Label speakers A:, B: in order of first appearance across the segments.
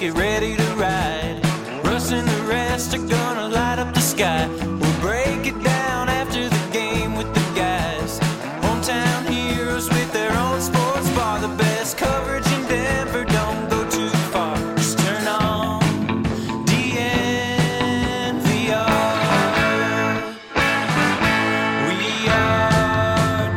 A: get ready to ride. Russ and the rest are gonna light up the sky. We'll break it down after the game with the guys. Hometown heroes with their own sports bar. The best coverage in Denver, don't go too far. Just turn on DNVR. We are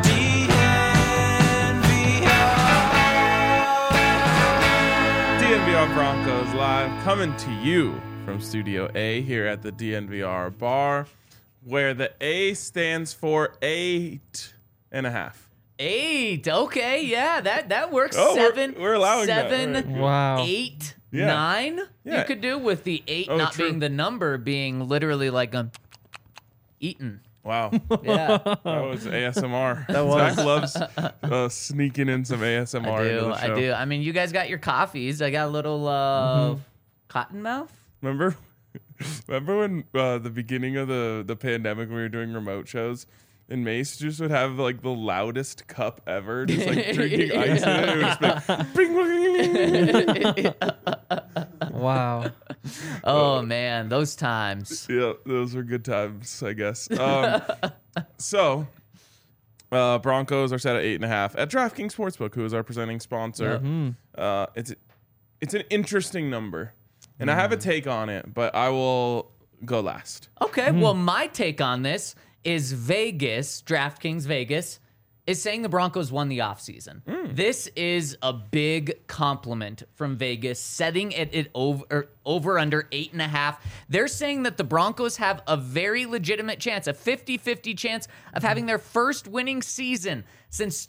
B: DNVR Broncos live, coming to you from Studio A here at the DNVR bar, where the A stands for 8.5.
C: 8. Okay, yeah, that works.
B: Oh,
C: 7.
B: we're allowing that.
C: 7.
B: All right.
D: Wow.
C: 8.
B: Yeah.
C: 9.
B: Yeah.
C: You could do with the 8 not
B: true.
C: being the number, being literally like eaten.
B: Wow.
C: Yeah.
B: That was ASMR.
D: That was.
B: Zach loves sneaking in some ASMR into the show.
C: I do. I mean, you guys got your coffees. I got a little cottonmouth.
B: Remember when the beginning of the pandemic, we were doing remote shows, and Mace just would have like the loudest cup ever, just like drinking ice in it. It would just be like, bing,
D: Wow.
C: Oh man, those times.
B: yeah, those were good times, I guess. So, Broncos are set at 8.5 at DraftKings Sportsbook, who is our presenting sponsor. It's an interesting number, and I have a take on it, but I will go last.
C: Okay, well, my take on this is Vegas, DraftKings Vegas, is saying the Broncos won the offseason. This is a big compliment from Vegas, setting it over under 8.5. They're saying that the Broncos have a very legitimate chance, a 50-50 chance of having their first winning season since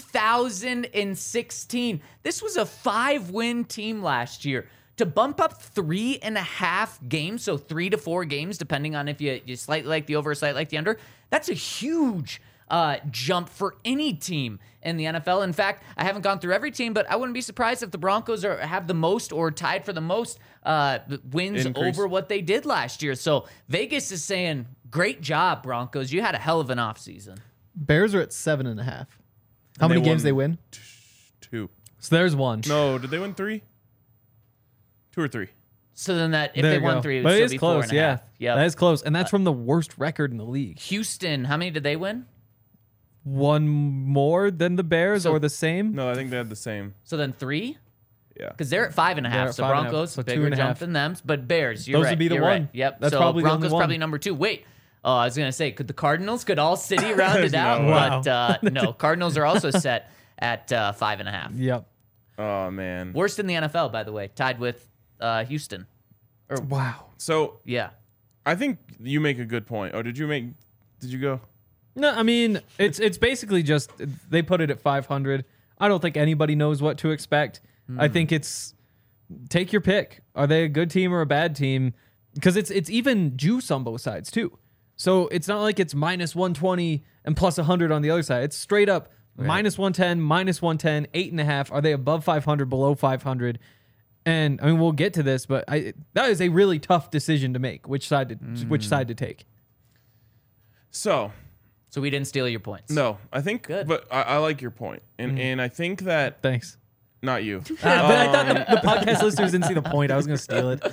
C: 2016. This was a 5-win team last year. To bump up 3.5 games, so 3 to 4 games, depending on if you slightly like the over or slightly like the under, that's a huge jump for any team in the NFL. In fact, I haven't gone through every team, but I wouldn't be surprised if the Broncos have the most or tied for the most wins
B: Increase.
C: over what they did last year. So Vegas is saying, great job, Broncos. You had a hell of an offseason.
D: Bears are at 7.5. How
B: they
D: many games
B: won
D: they win?
B: 2.
D: So there's one.
B: No, did they win 3? 2 or 3?
C: So then if
D: There
C: they
D: you
C: won
D: go.
C: 3, it would
D: But it
C: still
D: is
C: be
D: close.
C: 4.5.
D: Yeah,
C: Yep.
D: that is close, and that's from the worst record in the league.
C: Houston, how many did they win?
D: One more than the Bears,
C: So-
D: or the same?
B: No, I think they had the same.
C: So then 3?
B: Yeah.
C: Because they're at 5.5.
D: They're at
C: So
D: 5.5,
C: Broncos,
D: so
C: bigger
D: 2.5.
C: jump than them. But Bears, you're
D: Those
C: right.
D: would be the
C: you're
D: one.
C: right. Yep.
D: That's
C: so
D: probably the
C: Broncos
D: only one.
C: probably number 2. Wait. Oh, I was going to say, could the Cardinals, could all city round it out?
B: no way.
D: Wow.
C: But no, Cardinals are also set at 5.5.
D: Yep.
B: Oh, man.
C: Worst in the NFL, by the way, tied with Houston.
D: Wow.
B: So
C: Yeah.
B: I think you make a good point. Oh, did you go?
D: No, I mean it's basically just they put it at 500. I don't think anybody knows what to expect. I think it's take your pick. Are they a good team or a bad team? Because it's even juice on both sides too. So it's not like it's minus 120 and plus 100 on the other side. It's straight up minus 110, minus 110, 8.5. Are they above 500, below 500? And I mean, we'll get to this, but that is a really tough decision to make. Which side to take?
B: So
C: we didn't steal your points.
B: no, I think,
C: Good.
B: but I like your point, and I think that
D: Thanks.
B: not you.
D: But I thought the podcast listeners didn't see the point. I was going to steal it.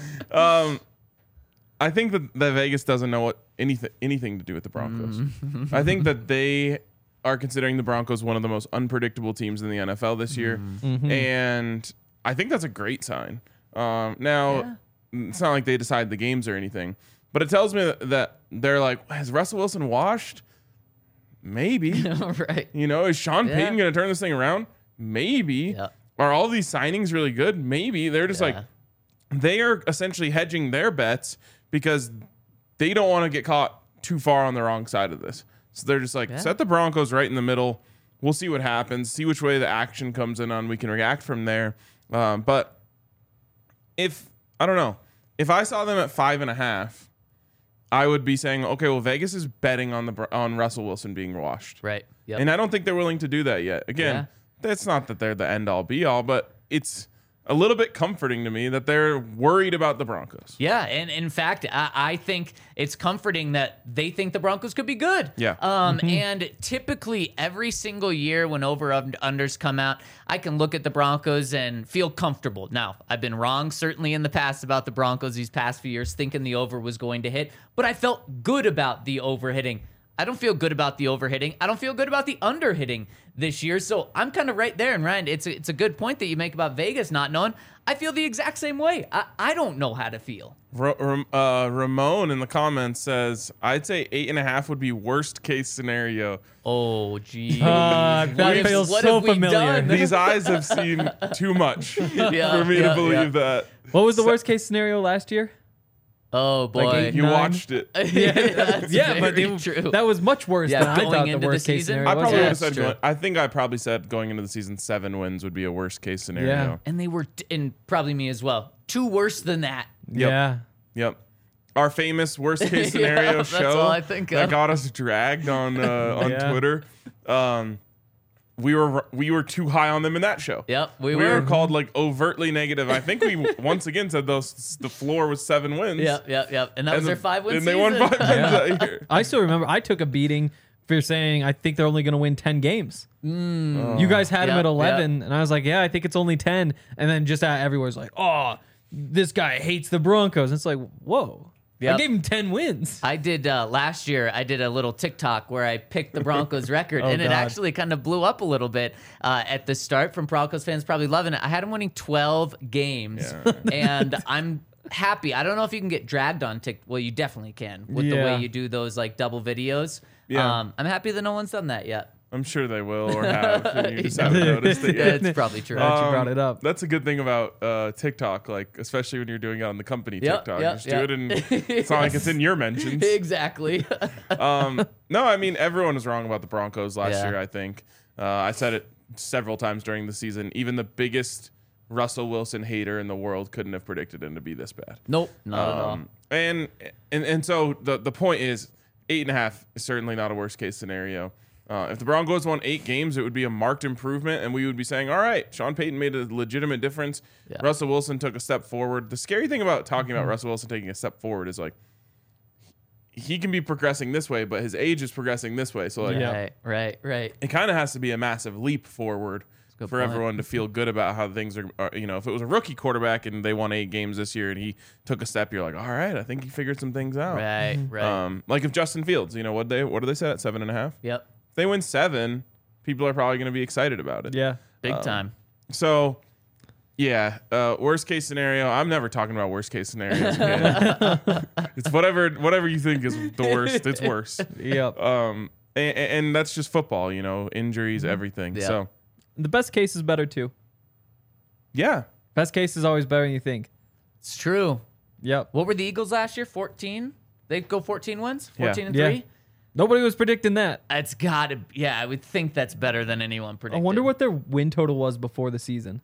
B: I think that Vegas doesn't know what anything to do with the Broncos. I think that they are considering the Broncos one of the most unpredictable teams in the NFL this year, and I think that's a great sign. Now, it's not like they decide the games or anything, but it tells me that they're like, has Russell Wilson washed? Maybe.
C: Right.
B: You know, is Sean Payton going to turn this thing around? Maybe.
C: Yeah.
B: Are all these signings really good? Maybe. They're just like, they are essentially hedging their bets because they don't want to get caught too far on the wrong side of this. So they're just like, set the Broncos right in the middle. We'll see what happens, see which way the action comes in on. We can react from there. But if I saw them at 5.5, I would be saying, okay, well, Vegas is betting on Russell Wilson being washed.
C: Right. Yep.
B: And I don't think they're willing to do that yet. Again, that's not that they're the end all be all, but it's a little bit comforting to me that they're worried about the Broncos.
C: Yeah, and in fact, I think it's comforting that they think the Broncos could be good.
B: Yeah.
C: And typically every single year when over-unders come out, I can look at the Broncos and feel comfortable. Now, I've been wrong certainly in the past about the Broncos these past few years, thinking the over was going to hit, but I felt good about the over hitting. I don't feel good about the over hitting. I don't feel good about the under hitting this year. So I'm kind of right there. And Ryan, it's a good point that you make about Vegas not knowing. I feel the exact same way. I don't know how to feel.
B: Ramon in the comments says, I'd say 8.5 would be worst case scenario.
C: Oh, geez.
D: That feels so familiar.
B: These eyes have seen too much for me to believe that.
D: What was the worst case scenario last year?
C: Oh, boy.
D: Like
B: You
D: 9?
B: watched it.
D: Yeah, but
C: true.
D: that was much worse than I
C: going
D: thought the
C: into the
D: worst case
C: season?
D: scenario
B: I
D: was.
B: probably would
C: Yeah,
B: have said,
C: true.
B: I think I probably said going into the season 7 wins would be a worst case scenario.
D: Yeah.
C: And they were, and probably me as well, 2 worse than that.
D: Yeah.
B: Yep. Our famous worst case
C: Yeah,
B: scenario
C: that's
B: show
C: all I think
B: that
C: of.
B: got us dragged on
D: Yeah.
B: Twitter. We were too high on them in that show.
C: Yep,
B: We
C: we
B: were
C: were.
B: called like overtly negative. I think we once again said the floor was 7 wins.
C: Yep. And that was their 5-win
B: and
C: season.
B: they won 5 wins that year.
D: I still remember I took a beating for saying I think they're only going to win 10 games. You guys had them
C: Yeah,
D: at 11, and I was like, yeah, I think it's only 10. And then just everyone's like, oh, this guy hates the Broncos. And it's like, whoa. I
C: Yep.
D: gave him 10 wins.
C: I did last year. I did a little TikTok where I picked the Broncos record, and it
D: God.
C: actually kind of blew up a little bit at the start from Broncos fans probably loving it. I had them winning 12 games, and I'm happy. I don't know if you can get dragged on TikTok. Well, you definitely can with the way
D: Yeah.
C: you do those like double videos.
B: Yeah.
C: I'm happy that no one's done that yet.
B: I'm sure they will or have. And you just haven't noticed it
C: Yeah,
B: yet.
C: it's probably true.
D: Glad you brought it up.
B: That's a good thing about TikTok, like especially when you're doing it on the company
C: Yep,
B: TikTok.
C: yep,
B: Just
C: yep.
B: do it, and it's not like it's in your mentions.
C: Exactly.
B: No, I mean everyone was wrong about the Broncos last
C: Yeah.
B: year. I think I said it several times during the season. Even the biggest Russell Wilson hater in the world couldn't have predicted him to be this bad.
C: Nope, not at all.
B: And so the point is 8.5 is certainly not a worst case scenario. If the Broncos won 8 games, it would be a marked improvement, and we would be saying, all right, Sean Payton made a legitimate difference.
C: Yeah.
B: Russell Wilson took a step forward. The scary thing about talking about Russell Wilson taking a step forward is like he can be progressing this way, but his age is progressing this way. So like
D: Yeah.
C: Right.
B: it kind of has to be a massive leap forward
C: good
B: for
C: point.
B: everyone to feel good about how things are. If it was a rookie quarterback and they won 8 games this year and he took a step, you're like, all right, I think he figured some things out.
C: Right.
B: Like if Justin Fields, what do they say at 7.5?
C: Yep.
B: If they win 7, people are probably going to be excited about it.
D: Yeah.
C: Big time.
B: So, yeah, worst case scenario. I'm never talking about worst case scenarios again. It's whatever you think is the worst. It's worse.
D: Yep.
B: And that's just football. Injuries, everything.
C: Yeah.
B: So,
D: The best case is better, too.
B: yeah.
D: Best case is always better than you think.
C: It's true.
D: Yep.
C: What were the Eagles last year? 14? They go 14 wins? 14 and
D: Yeah.
C: 3?
D: Nobody was predicting that.
C: It's got to, yeah, I would think that's better than anyone
D: I
C: predicted.
D: wonder what their win total was before the season.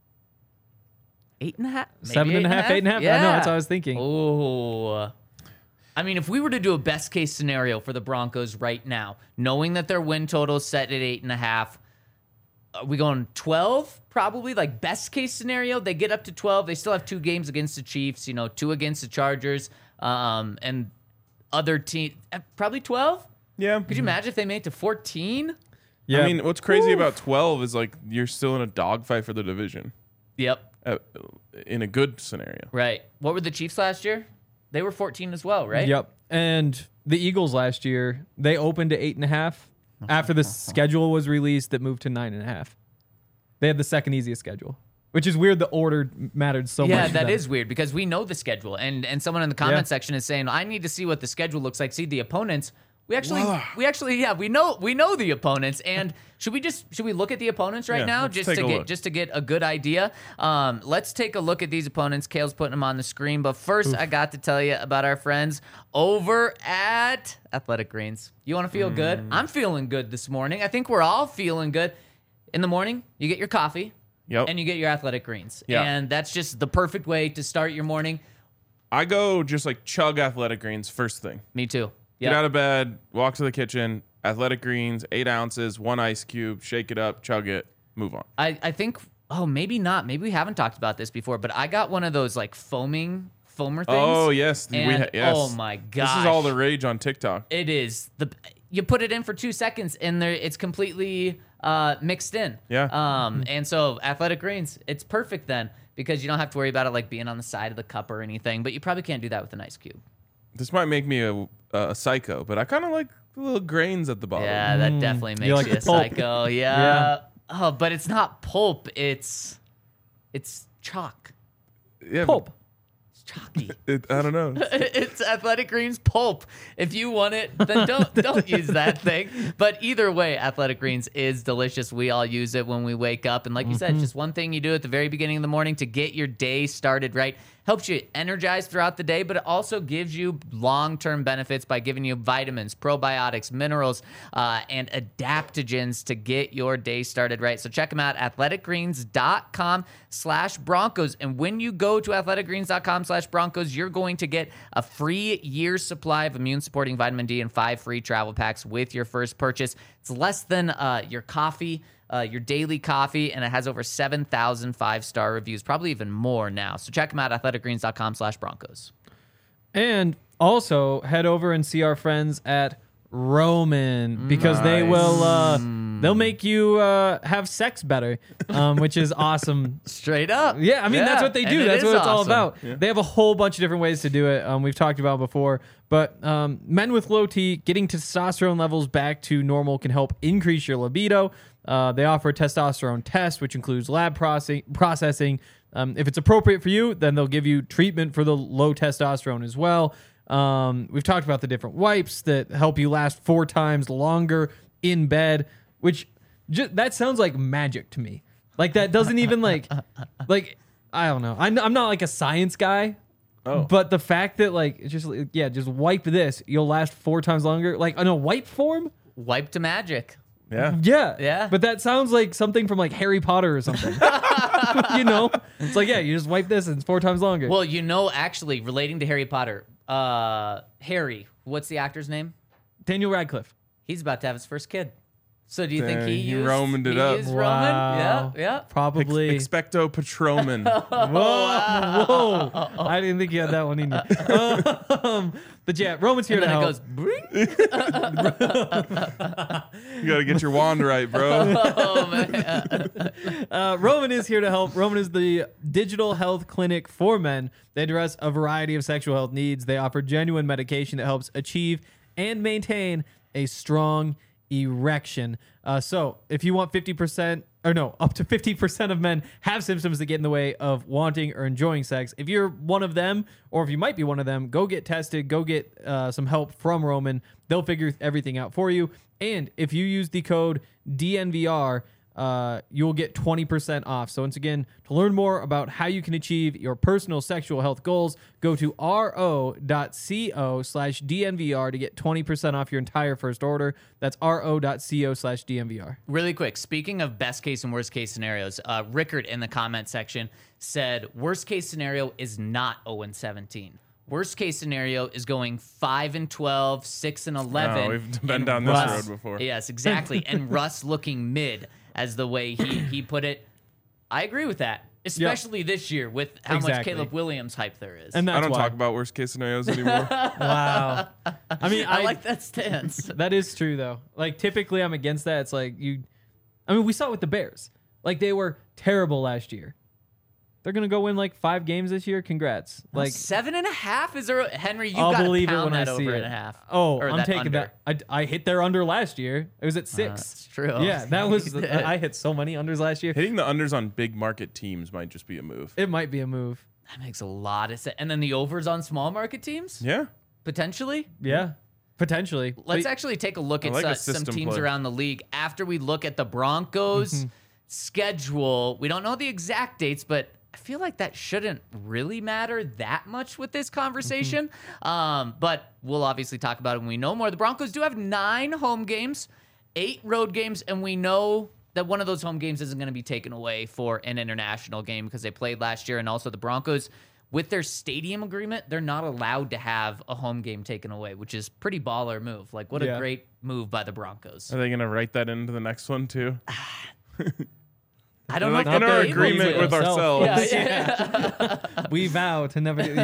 C: 8.5? Maybe
D: 7.5, 8.5?
C: Yeah.
D: I know, that's what I was thinking.
C: Oh. I mean, if we were to do a best case scenario for the Broncos right now, knowing that their win total is set at 8.5, are we going 12? Probably, like best case scenario. They get up to 12. They still have 2 games against the Chiefs, 2 against the Chargers, and other team. Probably 12?
B: Yeah.
C: Could you imagine if they made it to 14?
D: Yeah.
B: I mean, what's crazy about 12 is like you're still in a dogfight for the division
C: Yep.
B: in a good scenario.
C: Right. What were the Chiefs last year? They were 14 as well, right?
D: Yep. And the Eagles last year, they opened to 8.5. After the schedule was released, it moved to 9.5. They had the second easiest schedule, which is weird. The order mattered so much.
C: Yeah,
D: to
C: that
D: them.
C: is weird because we know the schedule, and someone in the comment
D: Yeah.
C: section is saying, "I need to see what the schedule looks like. See the opponents." We actually, we know the opponents, and should we look at the opponents right
B: Yeah,
C: now
B: let's
C: just
B: take
C: to
B: a
C: get
B: look.
C: just to get a good idea? Let's take a look at these opponents. Kale's putting them on the screen, but first I got to tell you about our friends over at Athletic Greens. You want to feel good? I'm feeling good this morning. I think we're all feeling good. In the morning, you get your coffee.
B: Yep.
C: And you get your Athletic Greens.
B: Yeah.
C: And that's just the perfect way to start your morning.
B: I go just like chug Athletic Greens first thing.
C: Me too.
B: Get out of bed, walk to the kitchen, Athletic Greens, 8 ounces, 1 ice cube, shake it up, chug it, move on.
C: I think Oh, maybe not. Maybe we haven't talked about this before, but I got one of those like foamer things.
B: Oh, yes. Yes.
C: Oh my gosh.
B: This is all the rage on TikTok.
C: It is. You put it in for 2 seconds and it's completely mixed in.
B: Yeah.
C: And so Athletic Greens, it's perfect then because you don't have to worry about it like being on the side of the cup or anything, but you probably can't do that with an ice cube.
B: This might make me a psycho, but I kind of like the little grains at the bottom.
C: Yeah, that definitely makes
D: like
C: you a
D: the pulp.
C: psycho. Yeah.
D: Yeah.
C: Oh, but it's not pulp. It's chalk.
B: Yeah,
D: Pulp.
C: It's chalky.
B: I don't know.
C: It's Athletic Greens pulp. If you want it, then don't use that thing. But either way, Athletic Greens is delicious. We all use it when we wake up. And like you said, just one thing you do at the very beginning of the morning to get your day started right. Helps you energize throughout the day, but it also gives you long-term benefits by giving you vitamins, probiotics, minerals, and adaptogens to get your day started right. So check them out, athleticgreens.com/Broncos. And when you go to athleticgreens.com/Broncos, you're going to get a free year's supply of immune-supporting vitamin D and 5 free travel packs with your first purchase. It's less than your coffee. Your daily coffee, and it has over 7,000 5-star reviews, probably even more now. So check them out, athleticgreens.com/Broncos.
D: And also head over and see our friends at Roman because they will they'll make you have sex better, which is awesome.
C: Straight up.
D: Yeah, I mean that's what they do.
C: And
D: That's what it's all
C: awesome.
D: about. Yeah. They have a whole bunch of different ways to do it. We've talked about before, but men with low T getting testosterone levels back to normal can help increase your libido. They offer a testosterone test, which includes lab processing. If it's appropriate for you, then they'll give you treatment for the low testosterone as well. We've talked about the different wipes that help you last 4 times longer in bed, which that sounds like magic to me. Like that doesn't even like I don't know. I'm not like a science guy.
B: Oh.
D: But the fact that like just wipe this, you'll last 4 times longer. Like in a wipe form.
C: Wipe to magic.
B: Yeah.
D: Yeah. But that sounds like something from like Harry Potter or something. You know? It's like, yeah, you just wipe this and it's 4 times longer.
C: Well, actually, relating to Harry Potter, Harry, what's the actor's name?
D: Daniel Radcliffe.
C: He's about to have his first kid. So do you think he used
B: Romaned it up.
C: Used
D: Wow.
C: Roman? Yeah.
D: Probably.
B: Expecto Patroman.
D: Whoa. I didn't think you had that one in you. But yeah, Roman's here
C: And
D: to
C: then it
D: help.
C: goes, bring.
B: You got to get your wand right, bro.
C: Oh, man.
D: Roman is here to help. Roman is the digital health clinic for men. They address a variety of sexual health needs. They offer genuine medication that helps achieve and maintain a strong erection. So if you want up to 50% of men have symptoms that get in the way of wanting or enjoying sex. If you're one of them, or if you might be one of them, go get tested, go get some help from Roman. They'll figure everything out for you. And if you use the code DNVR, you'll get 20% off. So once again, to learn more about how you can achieve your personal sexual health goals, go to ro.co/DNVR to get 20% off your entire first order. That's ro.co/DNVR.
C: Really quick, speaking of best case and worst case scenarios, Rickard in the comment section said worst case scenario is not 0-17. Worst case scenario is going 5-12, 6-11.
B: Oh, we've been down this road before.
C: Yes, exactly. And Russ looking mid, as the way he put it. I agree with that, especially this year with how much Caleb Williams hype there is.
D: And that's
B: I don't
D: why.
B: talk about worst case scenarios anymore.
D: Wow. I mean,
C: I like that stance.
D: That is true though. Like typically I'm against that. It's like we saw it with the Bears. Like they were terrible last year. They're gonna go win like 5 games this year. Congrats! Like
C: 7.5 is there, Henry. You
D: I'll
C: got to
D: believe it
C: pound
D: when I
C: that
D: see
C: over
D: it.
C: 1.5.
D: Oh,
C: Or
D: I'm
C: that
D: taking
C: under.
D: that. I hit their under last year. It was at 6.
C: That's true.
D: Yeah, that was. I hit so many unders last year.
B: Hitting the unders on big market teams might just be a move.
D: It might be a move.
C: That makes a lot of sense. And then the overs on small market teams,
B: Yeah.
C: potentially.
D: Yeah, potentially.
C: Let's
D: But-
C: actually take a look at
B: like a
C: some
B: system
C: teams
B: play.
C: around the league after we look at the Broncos' schedule. We don't know the exact dates, but I feel like that shouldn't really matter that much with this conversation. But we'll obviously talk about it when we know more. The Broncos do have 9 home games, 8 road games, and we know that one of those home games isn't going to be taken away for an international game because they played last year. And also the Broncos, with their stadium agreement, they're not allowed to have a home game taken away, which is pretty baller move. Like, what a
D: Yeah.
C: great move by the Broncos.
B: Are they going to write that into the next one too?
C: I don't know
B: like
C: if
B: in
C: they'll
B: our
C: be able
B: agreement
C: to.
B: with
D: Themselves.
B: ourselves.
C: Yeah.
D: We vow to never do.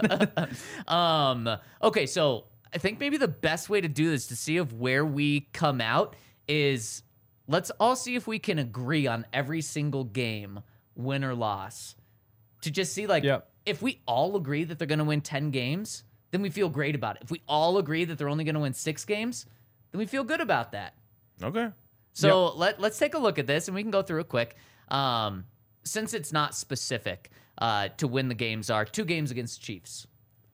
D: Yeah.
C: Okay, so I think maybe the best way to do this to see of where we come out is let's all see if we can agree on every single game, win or loss. To just see like
D: Yep.
C: if we all agree that they're going to win 10 games, then we feel great about it. If we all agree that they're only going to win 6 games, then we feel good about that.
B: Okay.
C: So let's take a look at this, and we can go through it quick. Since it's not specific to win the games are 2 games against the Chiefs.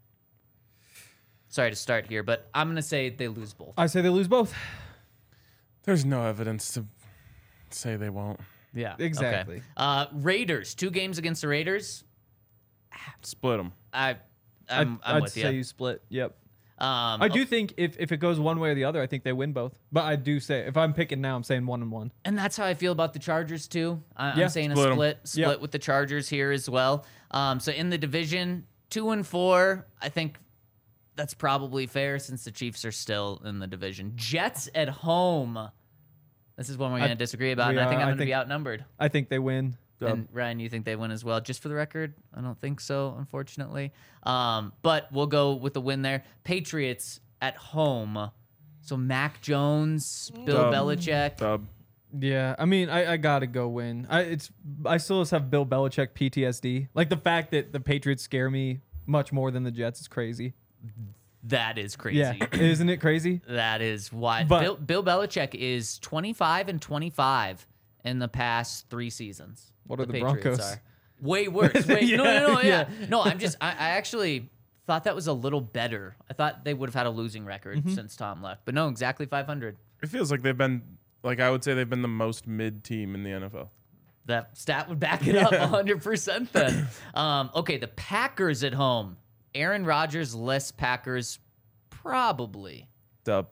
C: Sorry to start here, but I'm going to say they lose both.
D: I say they lose both.
B: There's no evidence to say they won't.
C: Yeah.
D: Exactly.
C: Okay. Raiders, 2 games against the Raiders.
B: Split them.
C: I'm
D: I'd
C: with
D: say
C: you.
D: you split. Yep. I do think if it goes one way or the other, I think they win both. But I do say if I'm picking now, I'm saying 1-1.
C: And that's how I feel about the Chargers too. I'm
D: Yeah.
C: saying
B: Split 'em.
C: a split
D: Yep.
C: with the Chargers here as well. So in the division, 2-4, I think that's probably fair since the Chiefs are still in the division. Jets at home. This is one we're going to disagree about, and I think I'm going to be outnumbered.
D: I think they win.
C: And Ryan, you think they win as well? Just for the record, I don't think so, unfortunately. But we'll go with the win there. Patriots at home. So Mac Jones, Bill
B: Dub.
C: Belichick.
B: Dub.
D: Yeah, I mean, I gotta go win. I still just have Bill Belichick PTSD. Like the fact that the Patriots scare me much more than the Jets is crazy.
C: That is crazy.
D: Yeah, isn't it crazy?
C: That is why
D: But-
C: Bill Belichick is 25-25 in the past 3 seasons.
D: What are the
C: Patriots
D: Broncos?
C: are. Way worse. Wait, no, yeah.
D: Yeah.
C: No, I actually thought that was a little better. I thought they would have had a losing record
D: Mm-hmm.
C: since Tom left. But no, exactly 500.
B: It feels like they've been, like I would say they've been the most mid team in the NFL.
C: That stat would back it up 100% then. Okay, the Packers at home. Aaron Rodgers, less Packers, probably.
B: Dub.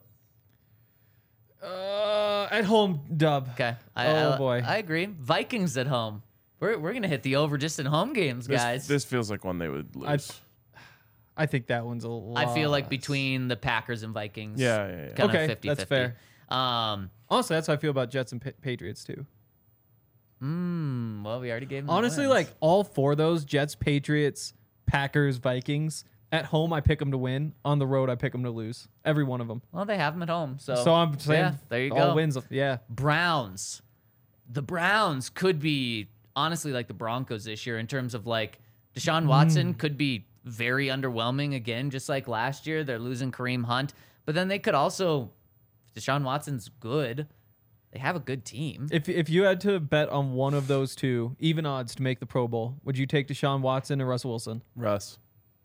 D: At home, dub.
C: Okay.
D: Boy.
C: I agree. Vikings at home. We're going to hit the over just in home games, guys.
B: This feels like one they would lose.
D: I think that one's a lot.
C: I feel like between the Packers and Vikings.
B: Yeah.
C: Kind
D: Okay,
C: of 50-50.
D: that's fair.
C: Um,
D: Honestly, that's how I feel about Jets and Patriots too.
C: well, we already gave them the
D: Honestly,
C: wins.
D: like all 4 of those Jets, Patriots, Packers, Vikings. At home, I pick them to win. On the road, I pick them to lose. Every one of them.
C: Well, they have them at home. So
D: I'm saying,
C: yeah, there you
D: all
C: go.
D: wins. Yeah,
C: Browns. The Browns could be honestly like the Broncos this year in terms of like Deshaun Watson could be very underwhelming again, just like last year. They're losing Kareem Hunt, but then they could also, if Deshaun Watson's good, they have a good team.
D: If you had to bet on one of those 2, even odds to make the Pro Bowl, would you take Deshaun Watson or Russell Wilson?
B: Russ.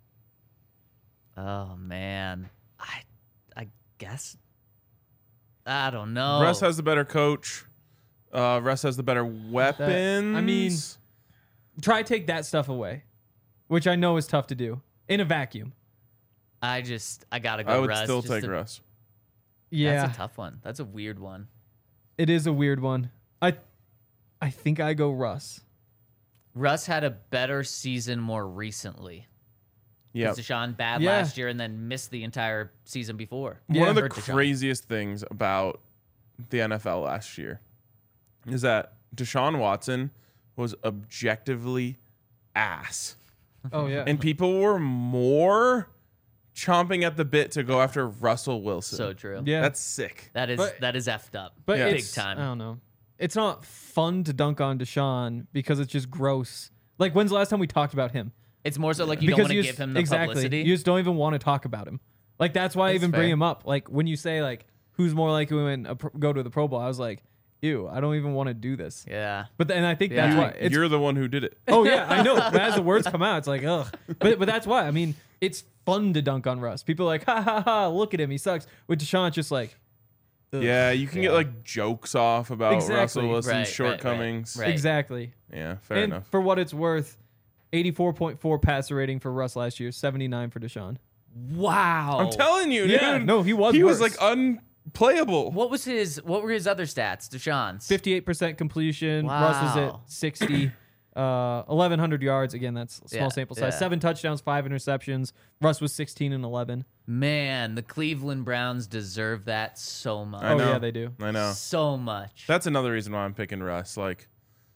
C: Oh man, I guess I don't know.
B: Russ has the better coach. Russ has the better weapons.
D: I mean, try take that stuff away, which I know is tough to do in a vacuum.
C: I gotta go.
B: I would
C: Russ,
B: still
C: just
B: take
C: to-
B: Russ.
D: Yeah,
C: That's a tough one. That's a weird one.
D: it is a weird one. I think I go Russ.
C: Russ had a better season more recently.
B: Yeah.
C: Was Deshaun bad
D: Yeah.
C: last year and then missed the entire season before?
B: One of the
C: Or Deshaun.
B: craziest things about the NFL last year is that Deshaun Watson was objectively ass.
D: Oh yeah,
B: And people were more chomping at the bit to go after Russell Wilson.
C: So true.
D: yeah.
B: That's sick.
C: That is
D: But-
C: effed up.
D: But
B: Yeah.
C: big
D: it's,
C: time.
D: I don't know. It's not fun to dunk on Deshaun because it's just gross. Like, when's the last time we talked about him?
C: It's more so like you don't
D: Because
C: want to
D: you
C: give
D: just-
C: him the
D: exactly.
C: publicity.
D: You just don't even want to talk about him. Like, that's why I
C: That's
D: even bring
C: fair.
D: him up. Like, when you say, like, who's more likely to win go to the Pro Bowl, I was like, ew, I don't even want to do this.
C: Yeah.
D: But and I think that's
C: Yeah.
D: why. It's,
B: You're the one who did it.
D: oh, yeah, I know. But as the words come out, it's like, ugh. But that's why. I mean, it's fun to dunk on Russ. People are like, ha, ha, ha, look at him. He sucks. With Deshaun, it's just like, ugh.
B: Yeah, you can get like jokes off about
D: Exactly.
B: Russell Wilson's
C: Right,
B: shortcomings.
C: right.
D: Exactly.
B: Yeah, fair
D: And
B: enough.
D: for what it's worth, 84.4 passer rating for Russ last year, 79 for Deshaun.
C: Wow.
B: I'm telling you,
D: Yeah,
B: dude.
D: no, he was
B: He was
D: worse.
B: like unplayable.
C: What were his other stats, Deshaun's?
D: 58% completion. Russ was
C: Wow.
D: at 60. 1,100 yards. Again, that's a small
C: Yeah,
D: sample size.
C: yeah.
D: 7 touchdowns, 5 interceptions. Russ was 16 and 11.
C: Man, the Cleveland Browns deserve that so much.
B: I
D: Oh,
B: know.
D: yeah, they do.
B: I know.
C: So much.
B: That's another reason why I'm picking Russ. Like,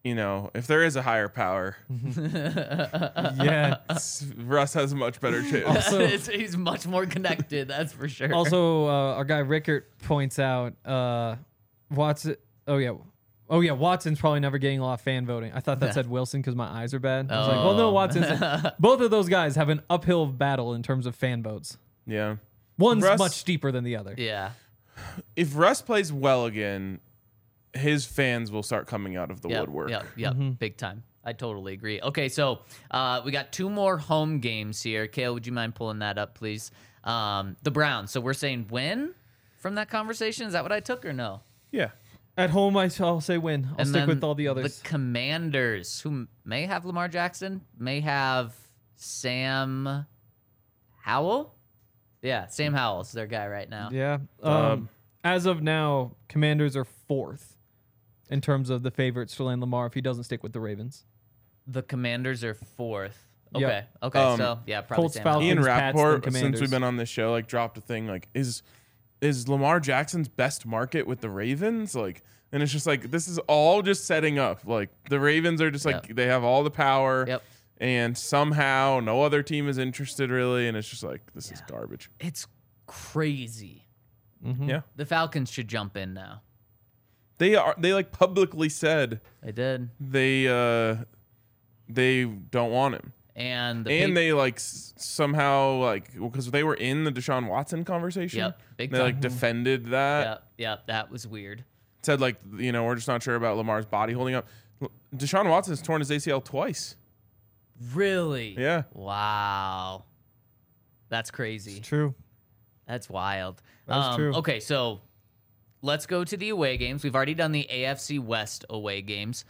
B: if there is a higher power,
D: Yeah.
B: Russ has a much better chance.
D: Also-
C: He's much more connected, that's for sure.
D: Also, our guy Rickert points out Watson. Oh yeah, Watson's probably never getting a lot of fan voting. I thought that said Wilson because my eyes are bad. I was like, well, no, Watson's. Both of those guys have an uphill battle in terms of fan votes.
B: Yeah.
D: One's
B: Russ-
D: much steeper than the other.
C: yeah.
B: If Russ plays well again, his fans will start coming out of the woodwork.
C: Yep. Big time. I totally agree. Okay, so we got 2 more home games here. Kale, would you mind pulling that up, please? The Browns. So we're saying win from that conversation? Is that what I took or no?
B: Yeah.
D: At home, I'll say win. I'll
C: And
D: stick
C: then
D: with all the others.
C: The Commanders, who may have Lamar Jackson, may have Sam Howell. Yeah, Sam Howell's their guy right now.
D: Yeah. As of now, Commanders are 4th in terms of the favorites to land Lamar if he doesn't stick with the Ravens.
C: The Commanders are 4th. Okay.
D: Yep.
C: Okay. So yeah, probably
D: Colts,
C: Sam
D: Falcons,
C: Howell.
B: Ian
D: Pats, then
B: Rappaport, since
D: Commanders.
B: we've been on this show, dropped a thing is Lamar Jackson's best market with the Ravens? And it's just this is all just setting up. The Ravens are just
C: Yep.
B: they have all the power.
C: Yep.
B: And somehow no other team is interested really, and it's just this is garbage.
C: It's crazy.
B: Yeah.
C: The Falcons should jump in now.
B: They publicly said
C: They did.
B: they don't want him.
C: And the
B: And they somehow because they were in the Deshaun Watson conversation.
C: Yep, big
B: they
C: time.
B: defended that.
C: Yep, that was weird.
B: Said we're just not sure about Lamar's body holding up. Deshaun Watson has torn his ACL twice.
C: Really?
B: Yeah.
C: Wow. That's crazy.
D: It's true.
C: That's wild.
D: That's true.
C: Okay, so let's go to the away games. We've already done the AFC West away games.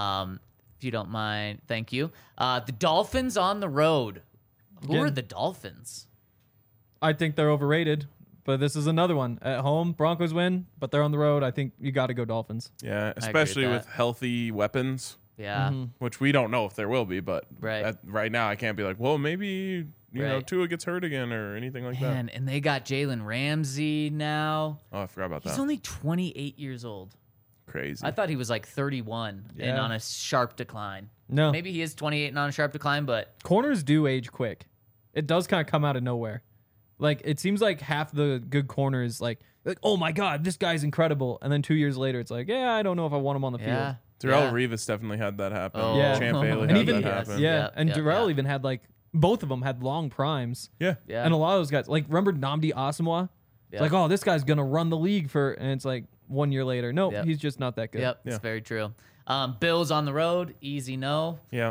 C: If you don't mind, thank you. The Dolphins on the road. Who
D: Again.
C: are the Dolphins?
D: I think they're overrated, but this is another one. At home, Broncos win, but they're on the road. I think you got to go Dolphins.
B: Yeah,
C: with
B: especially with
C: that.
B: healthy weapons,
C: Yeah.
B: which we don't know if there will be. But
C: Right.
B: right now, I can't be well, maybe you know
C: Right.
B: Tua gets hurt again or anything like that.
C: Man, and they got Jalen Ramsey now.
B: Oh, I forgot about
C: He's
B: that.
C: only 28 years old.
B: Crazy.
C: I thought he was 31 and
D: Yeah.
C: on a sharp decline.
D: No.
C: Maybe he is 28 and on a sharp decline, but
D: Corners do age quick. It does kind of come out of nowhere. It seems like half the good corners, oh my God, this guy's incredible. And then 2 years later, it's yeah, I don't know if I want him on the
C: yeah.
D: field.
B: Terrell
C: yeah.
B: Rivas definitely had that happen.
C: Oh.
D: Yeah.
B: Champ Bailey
C: And
B: had
D: even-
B: that
C: yes.
B: happen.
D: Yeah.
C: Yeah,
D: And
C: yeah,
D: Darrell
C: yeah.
D: even had both of them had long primes.
B: Yeah.
C: Yeah.
D: And a lot of those guys, remember Nnamdi Asomugha?
C: Yeah.
D: It's oh, this guy's going to run the league and it's 1 year later. No,
C: Yep.
D: he's just not that good.
C: Yep,
B: Yeah.
C: it's very true. Bills on the road, easy no.
B: Yeah.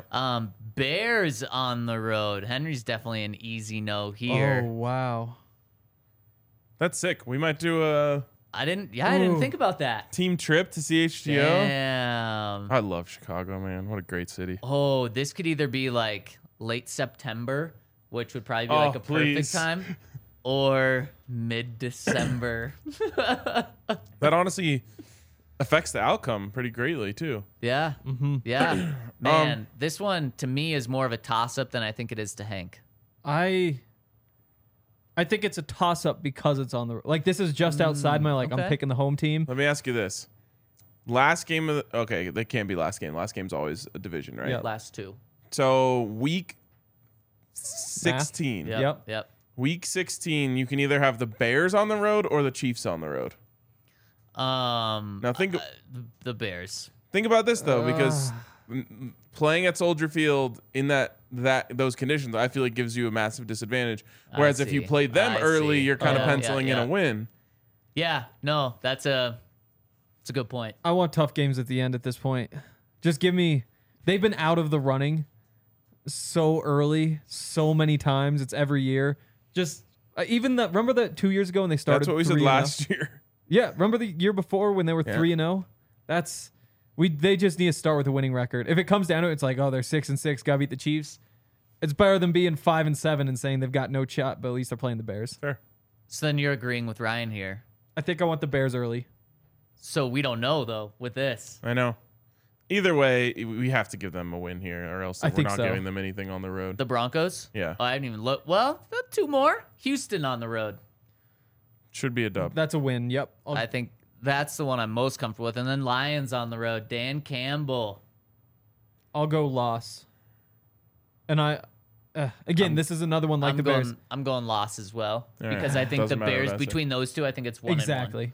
C: Bears on the road. Henry's definitely an easy no here.
D: Oh, wow.
B: That's sick. We might do a
C: I didn't think about that.
B: team trip to CHGO.
C: Damn.
B: I love Chicago, man. What a great city.
C: Oh, this could either be late September, which would probably be
B: Oh,
C: a perfect
B: please.
C: time, or mid-December.
B: That honestly affects the outcome pretty greatly too.
C: Yeah.
B: Mm-hmm.
C: Yeah. Man, this one to me is more of a toss-up than I think it is to Hank.
D: I think it's a toss up because it's on the this is just outside my I'm
C: okay.
D: picking the home team.
B: Let me ask you this. Last game of the, okay, they can't be last game. Last game's always a division, right?
D: Yeah.
C: Last two.
B: So week 16.
C: Yep. Yep.
B: Week 16, you can either have the Bears on the road or the Chiefs on the road. Now
C: The Bears.
B: think about this though, because playing at Soldier Field in those conditions, I feel gives you a massive disadvantage. Whereas if you
C: see.
B: played them
C: I
B: early,
C: see.
B: you're kind of
C: Yeah,
B: penciling in
C: yeah.
B: a win.
C: Yeah. No, that's a good point.
D: I want tough games at the end at this point. Just give me. They've been out of the running so early, so many times. It's every year. Just remember that 2 years ago when they started.
B: That's what we said
D: 3-0?
B: last year.
D: Yeah, remember the year before when they were 3-0? They just need to start with a winning record. If it comes down to it, it's they're 6-6, gotta beat the Chiefs. It's better than being 5-7 and saying they've got no shot, but at least they're playing the Bears.
B: Fair.
C: So then you're agreeing with Ryan here.
D: I think I want the Bears early.
C: So we don't know though with this.
B: I know. Either way, we have to give them a win here, or else
D: I
B: we're
D: think
B: not
D: so.
B: giving them anything on the road.
C: The Broncos?
B: Yeah.
C: Oh, I didn't even look. Well, two more. Houston on the road.
B: Should be a dub.
D: That's a win. Yep.
C: I think that's the one I'm most comfortable with. And then Lions on the road. Dan Campbell.
D: I'll go loss. And this is another one like the Bears.
C: I'm going loss as well
B: All
C: because
B: right.
C: I think the
B: Doesn't matter
C: Bears
B: what I say.
C: between those two, I think it's 1-1.
D: Exactly.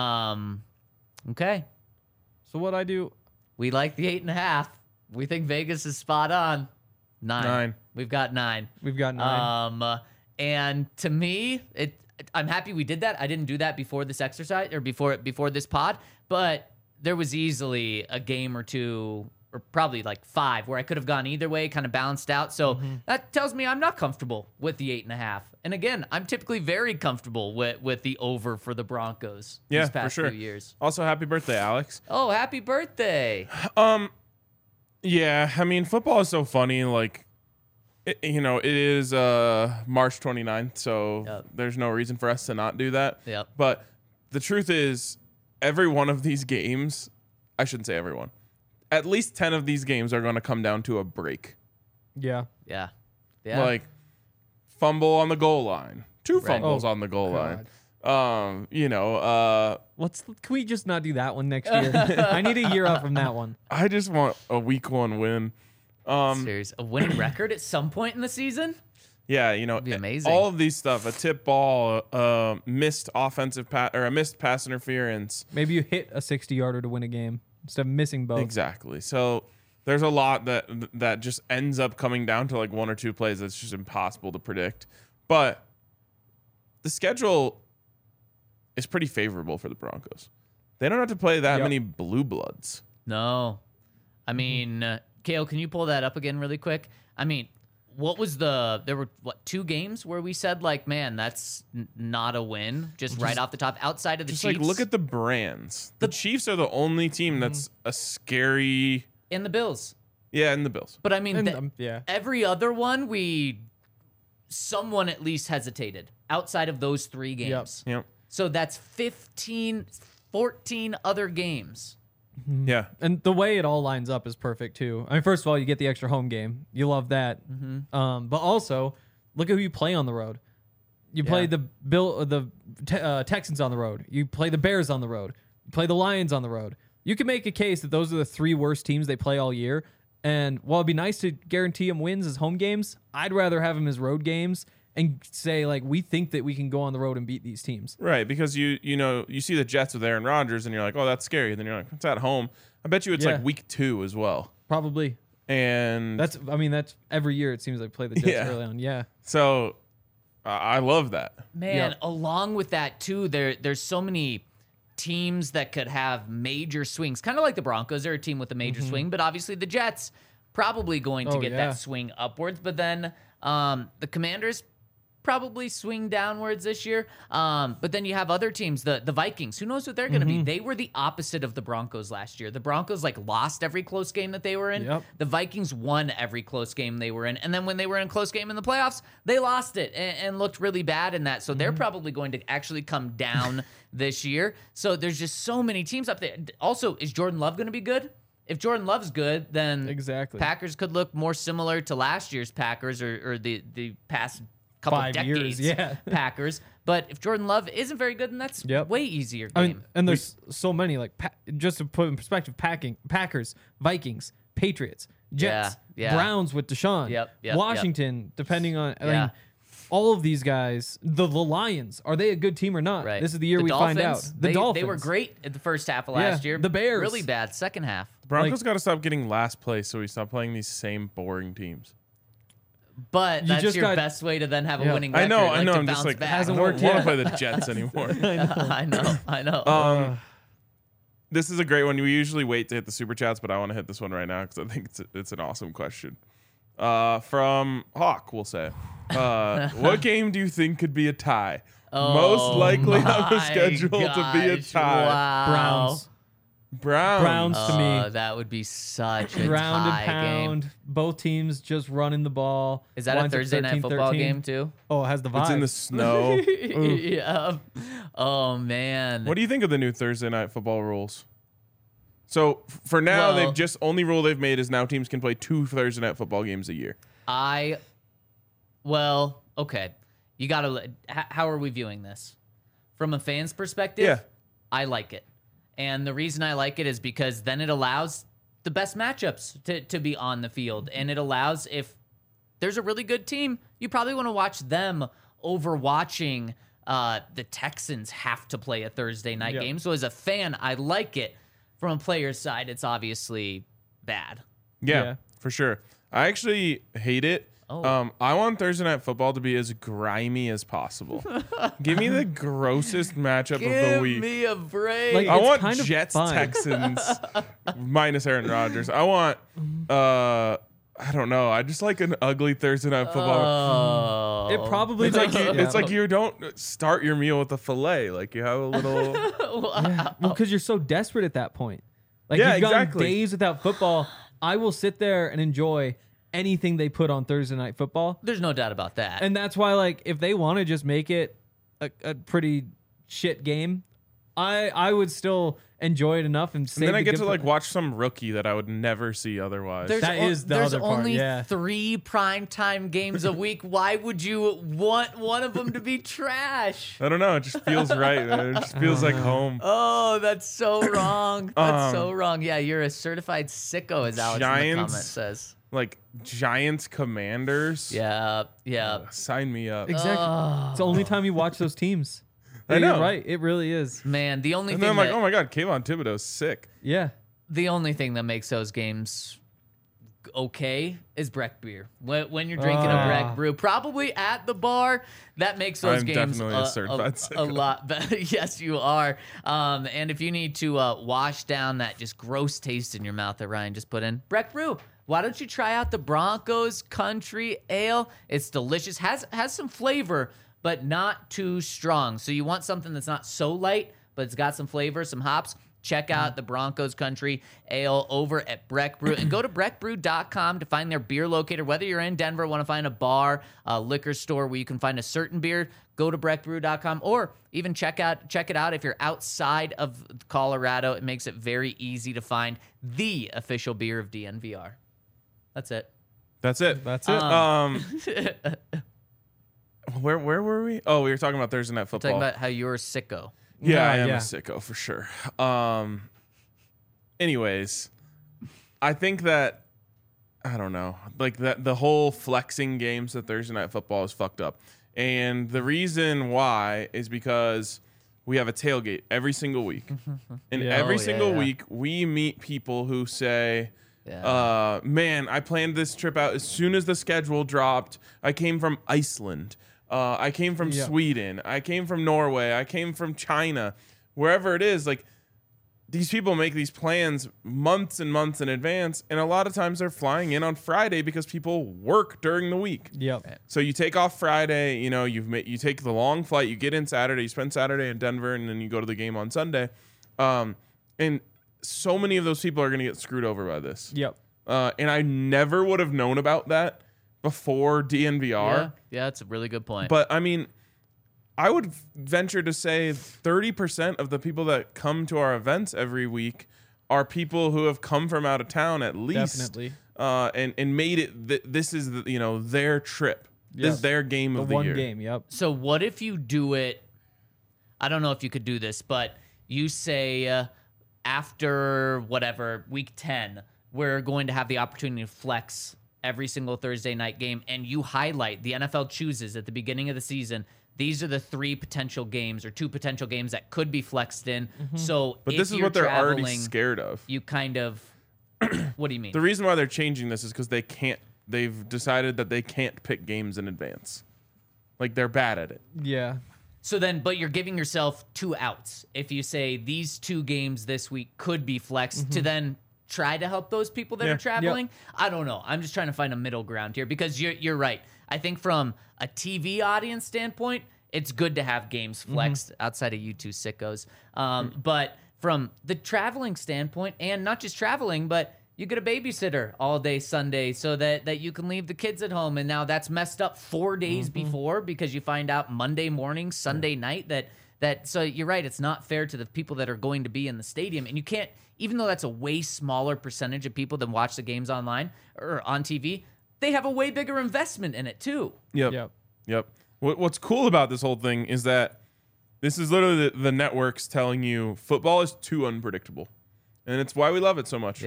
C: Okay.
D: So what I do?
C: We like the 8.5. We think Vegas is spot on. 9. We've got 9.
D: We've got 9.
C: And to me, I'm happy we did that. I didn't do that before this exercise or before this pod, but there was easily a game or two or probably like 5 where I could have gone either way, kind of balanced out. So that tells me I'm not comfortable with the 8.5. And again, I'm typically very comfortable with the over for the Broncos these past
B: for sure.
C: few years.
B: Also, happy birthday, Alex.
C: Oh, happy birthday.
B: Yeah, I mean, football is so funny. Like, it is March 29th, so there's no reason for us to not do that.
C: Yep.
B: But the truth is, every one of these games, I shouldn't say everyone, at least 10 of these games are going to come down to a break.
D: Yeah.
C: Yeah.
B: Like, fumble on the goal line, 2
C: Right.
B: fumbles on the goal
D: God.
B: line.
D: Can we just not do that one next year? I need a year out from that one.
B: I just want a week 1 win.
C: Serious. A winning record at some point in the season?
B: Yeah,
C: be amazing.
B: all of these stuff, a tip ball, missed offensive or a missed pass interference.
D: Maybe you hit a 60-yarder to win a game instead of missing both.
B: Exactly. So there's a lot that just ends up coming down to like 1 or 2 plays that's just impossible to predict. But the schedule is pretty favorable for the Broncos. They don't have to play that many blue bloods.
C: No. I mean, Kale, can you pull that up again really quick? I mean, there were 2 games where we said like, man, that's not a win, just right off the top, outside of the
B: Just
C: Chiefs.
B: like look at the brands. The Chiefs are the only team that's a scary.
C: in the Bills.
B: Yeah, and the Bills.
C: But I mean,
D: And, yeah.
C: every other one, someone at least hesitated outside of those 3 games.
B: Yep.
C: So that's 14 other games.
B: Yeah.
D: And the way it all lines up is perfect too. I mean, first of all, you get the extra home game. You love that. But also, look at who you play on the road. You play the Texans on the road. You play the Bears on the road. You play the Lions on the road. You can make a case that those are the 3 worst teams they play all year. And while it'd be nice to guarantee them wins as home games, I'd rather have them as road games and say, like, we think that we can go on the road and beat these teams.
B: Right, because you see the Jets with Aaron Rodgers and you're like, oh, that's scary. And then you're like, it's at home. I bet you it's like week 2 as well.
D: Probably.
B: And
D: That's every year it seems like play the Jets early on. Yeah.
B: so I love that.
C: Man,
D: Yep.
C: along with that too, there's so many teams that could have major swings. Kind of like the Broncos, they're a team with a major swing, but obviously the Jets probably going to get that swing upwards. But then the Commanders probably swing downwards this year. But then you have other teams, the Vikings. Who knows what they're going to be? They were the opposite of the Broncos last year. The Broncos lost every close game that they were in.
D: Yep.
C: The Vikings won every close game they were in. And then when they were in a close game in the playoffs, they lost it and looked really bad in that. So they're probably going to actually come down this year. So there's just so many teams up there. Also, is Jordan Love going to be good? If Jordan Love's good, then
D: Exactly.
C: Packers could look more similar to last year's Packers or the past couple
D: 5
C: decades
D: years, yeah.
C: Packers. But if Jordan Love isn't very good, then that's way easier game.
D: I mean, and there's so many, like, just to put in perspective, Packers, Vikings, Patriots, Jets,
C: Yeah.
D: Browns with Deshaun,
C: Yep,
D: Washington, depending on, I
C: Yeah.
D: mean, all of these guys, the Lions, are they a good team or not?
C: Right.
D: This is the year we find out. The Dolphins.
C: They were great at the first half of last year.
D: the Bears.
C: Really bad second half.
B: The Broncos got to stop getting last place so we stop playing these same boring teams.
C: But
D: You
C: that's
D: just
C: your
D: got-
C: best way to then have a
D: Yeah.
C: winning
B: I
C: record.
B: know.
C: to
B: I'm just
C: bounce
B: like,
C: back.
D: Hasn't
B: I
D: worked
B: don't want
D: yet.
B: to play the Jets anymore.
C: I know.
B: This is a great one. We usually wait to hit the super chats, but I want to hit this one right now because I think it's an awesome question. From Hawk, we'll say, what game do you think could be a tie? Most likely on the
C: My
B: schedule to be a
C: gosh,
B: tie.
C: Wow.
B: Browns.
D: to me.
C: That would be such a
D: Ground
C: tie
D: and pound.
C: game.
D: Both teams just running the ball.
C: Is that a
D: Winds up
C: Thursday night
D: 13-13.
C: football game too?
D: Oh, it has the vibe.
B: It's in the snow.
C: Yeah. Oh man.
B: What do you think of the new Thursday night football rules? So for now,
C: Well-
B: they've just only rule they've made is now teams can play 2 Thursday night football games a year.
C: Okay. You gotta. How are we viewing this? From a fan's perspective,
B: Yeah.
C: I like it. And the reason I like it is because then it allows the best matchups to be on the field. And it allows, if there's a really good team, you probably want to watch them over watching the Texans have to play a Thursday night game. So as a fan, I like it. From a player's side, it's obviously bad.
B: Yeah, for sure. I actually hate it. I want Thursday Night Football to be as grimy as possible. Give me the grossest matchup of the week.
C: Give me a break.
D: Like,
B: I
D: it's
B: want
D: kind of
B: Jets
D: fun.
B: Texans minus Aaron Rodgers. I want I don't know. I just like an ugly Thursday Night Football.
D: It probably
B: It's like
D: does-
B: you,
D: yeah.
B: it's like you don't start your meal with a fillet. Like you have a little.
D: Well, because you're so desperate at that point. Like
B: Yeah,
D: you've gone
B: exactly.
D: days without football. I will sit there and enjoy anything they put on Thursday Night Football.
C: There's no doubt about that.
D: And that's why, like, if they want to just make it a pretty shit game, I would still enjoy it enough and
B: And then I get to like watch some rookie that I would never see otherwise.
D: That is the
C: there's
D: other part,
C: only
D: yeah.
C: 3 primetime games a week. Why would you want one of them to be trash?
B: I don't know. It just feels right. Man. It just feels like home.
C: Oh, that's so wrong. That's so wrong. Yeah, you're a certified sicko, as Alex in the comment
B: Giants.
C: says.
B: Like Giants Commanders.
C: Yeah.
B: Sign me up.
D: Exactly. It's the only time you watch those teams.
B: I
D: You're
B: know.
D: right. It really is.
C: Man, the only
B: And then
C: thing
B: I'm like,
C: that,
B: oh my god, Kayvon Thibodeau's sick.
D: Yeah.
C: the only thing that makes those games okay is Breck beer. When you're drinking a Breck brew, probably at the bar, that makes those
B: I'm
C: games
B: definitely a certified sicko.
C: lot better. Yes, you are. And if you need to wash down that just gross taste in your mouth that Ryan just put in, Breck brew. Why don't you try out the Broncos Country Ale? It's delicious. Has some flavor, but not too strong. So you want something that's not so light, but it's got some flavor, some hops. Check out the Broncos Country Ale over at Breck Brew. And go to breckbrew.com to find their beer locator. Whether you're in Denver, want to find a bar, a liquor store where you can find a certain beer, go to breckbrew.com. Or even check it out if you're outside of Colorado. It makes it very easy to find the official beer of DNVR. That's it.
B: That's it.
D: That's it.
B: Where were we? Oh, we were talking about Thursday Night Football.
C: Talking about how you're a sicko.
B: Yeah, I am
D: yeah.
B: a sicko for sure. Anyways, I think that I don't know, like that the whole flexing games at Thursday Night Football is fucked up, and the reason why is because we have a tailgate every single week, and
D: Yeah.
B: every
C: Oh,
B: single
C: yeah.
B: week we meet people who say.
C: Yeah.
B: Man, I planned this trip out as soon as the schedule dropped. I came from Iceland. I came from
D: Yeah.
B: Sweden. I came from Norway. I came from China. Wherever it is, like these people make these plans months and months in advance, and a lot of times they're flying in on Friday because people work during the week.
D: Yep.
B: So you take off Friday, you know, you take the long flight, you get in Saturday, you spend Saturday in Denver, and then you go to the game on Sunday. And so many of those people are going to get screwed over by this.
D: Yep.
B: And I never would have known about that before DNVR.
C: Yeah, that's a really good point.
B: But I mean, I would venture to say 30% of the people that come to our events every week are people who have come from out of town at least.
D: Definitely.
B: And made it. This is their trip. This is their game
D: The
B: of the
D: one
B: year.
D: game. Yep.
C: So what if you do it? I don't know if you could do this, but you say after whatever week 10, we're going to have the opportunity to flex every single Thursday night game, and you highlight the NFL chooses at the beginning of the season. These are the 3 potential games or 2 potential games that could be flexed in. So,
B: But
C: if
B: this is
C: you're
B: what they're already
C: traveling,
B: scared of.
C: You kind of. What do you mean?
B: The reason why they're changing this is because they can't. They've decided that they can't pick games in advance. Like they're bad at it.
D: Yeah.
C: So then, but you're giving yourself 2 outs. If you say these 2 games this week could be flexed to then try to help those people that
B: Yeah.
C: are traveling. I don't know. I'm just trying to find a middle ground here because you're right. I think from a TV audience standpoint, it's good to have games flexed outside of you two sickos. But from the traveling standpoint, and not just traveling, but you get a babysitter all day Sunday so that you can leave the kids at home. And now that's messed up 4 days before because you find out Monday morning, Sunday night that so you're right, it's not fair to the people that are going to be in the stadium. And you can't, even though that's a way smaller percentage of people that watch the games online or on TV, they have a way bigger investment in it too.
B: Yep. What's cool about this whole thing is that this is literally the networks telling you football is too unpredictable. And it's why we love it so much.
C: Yeah.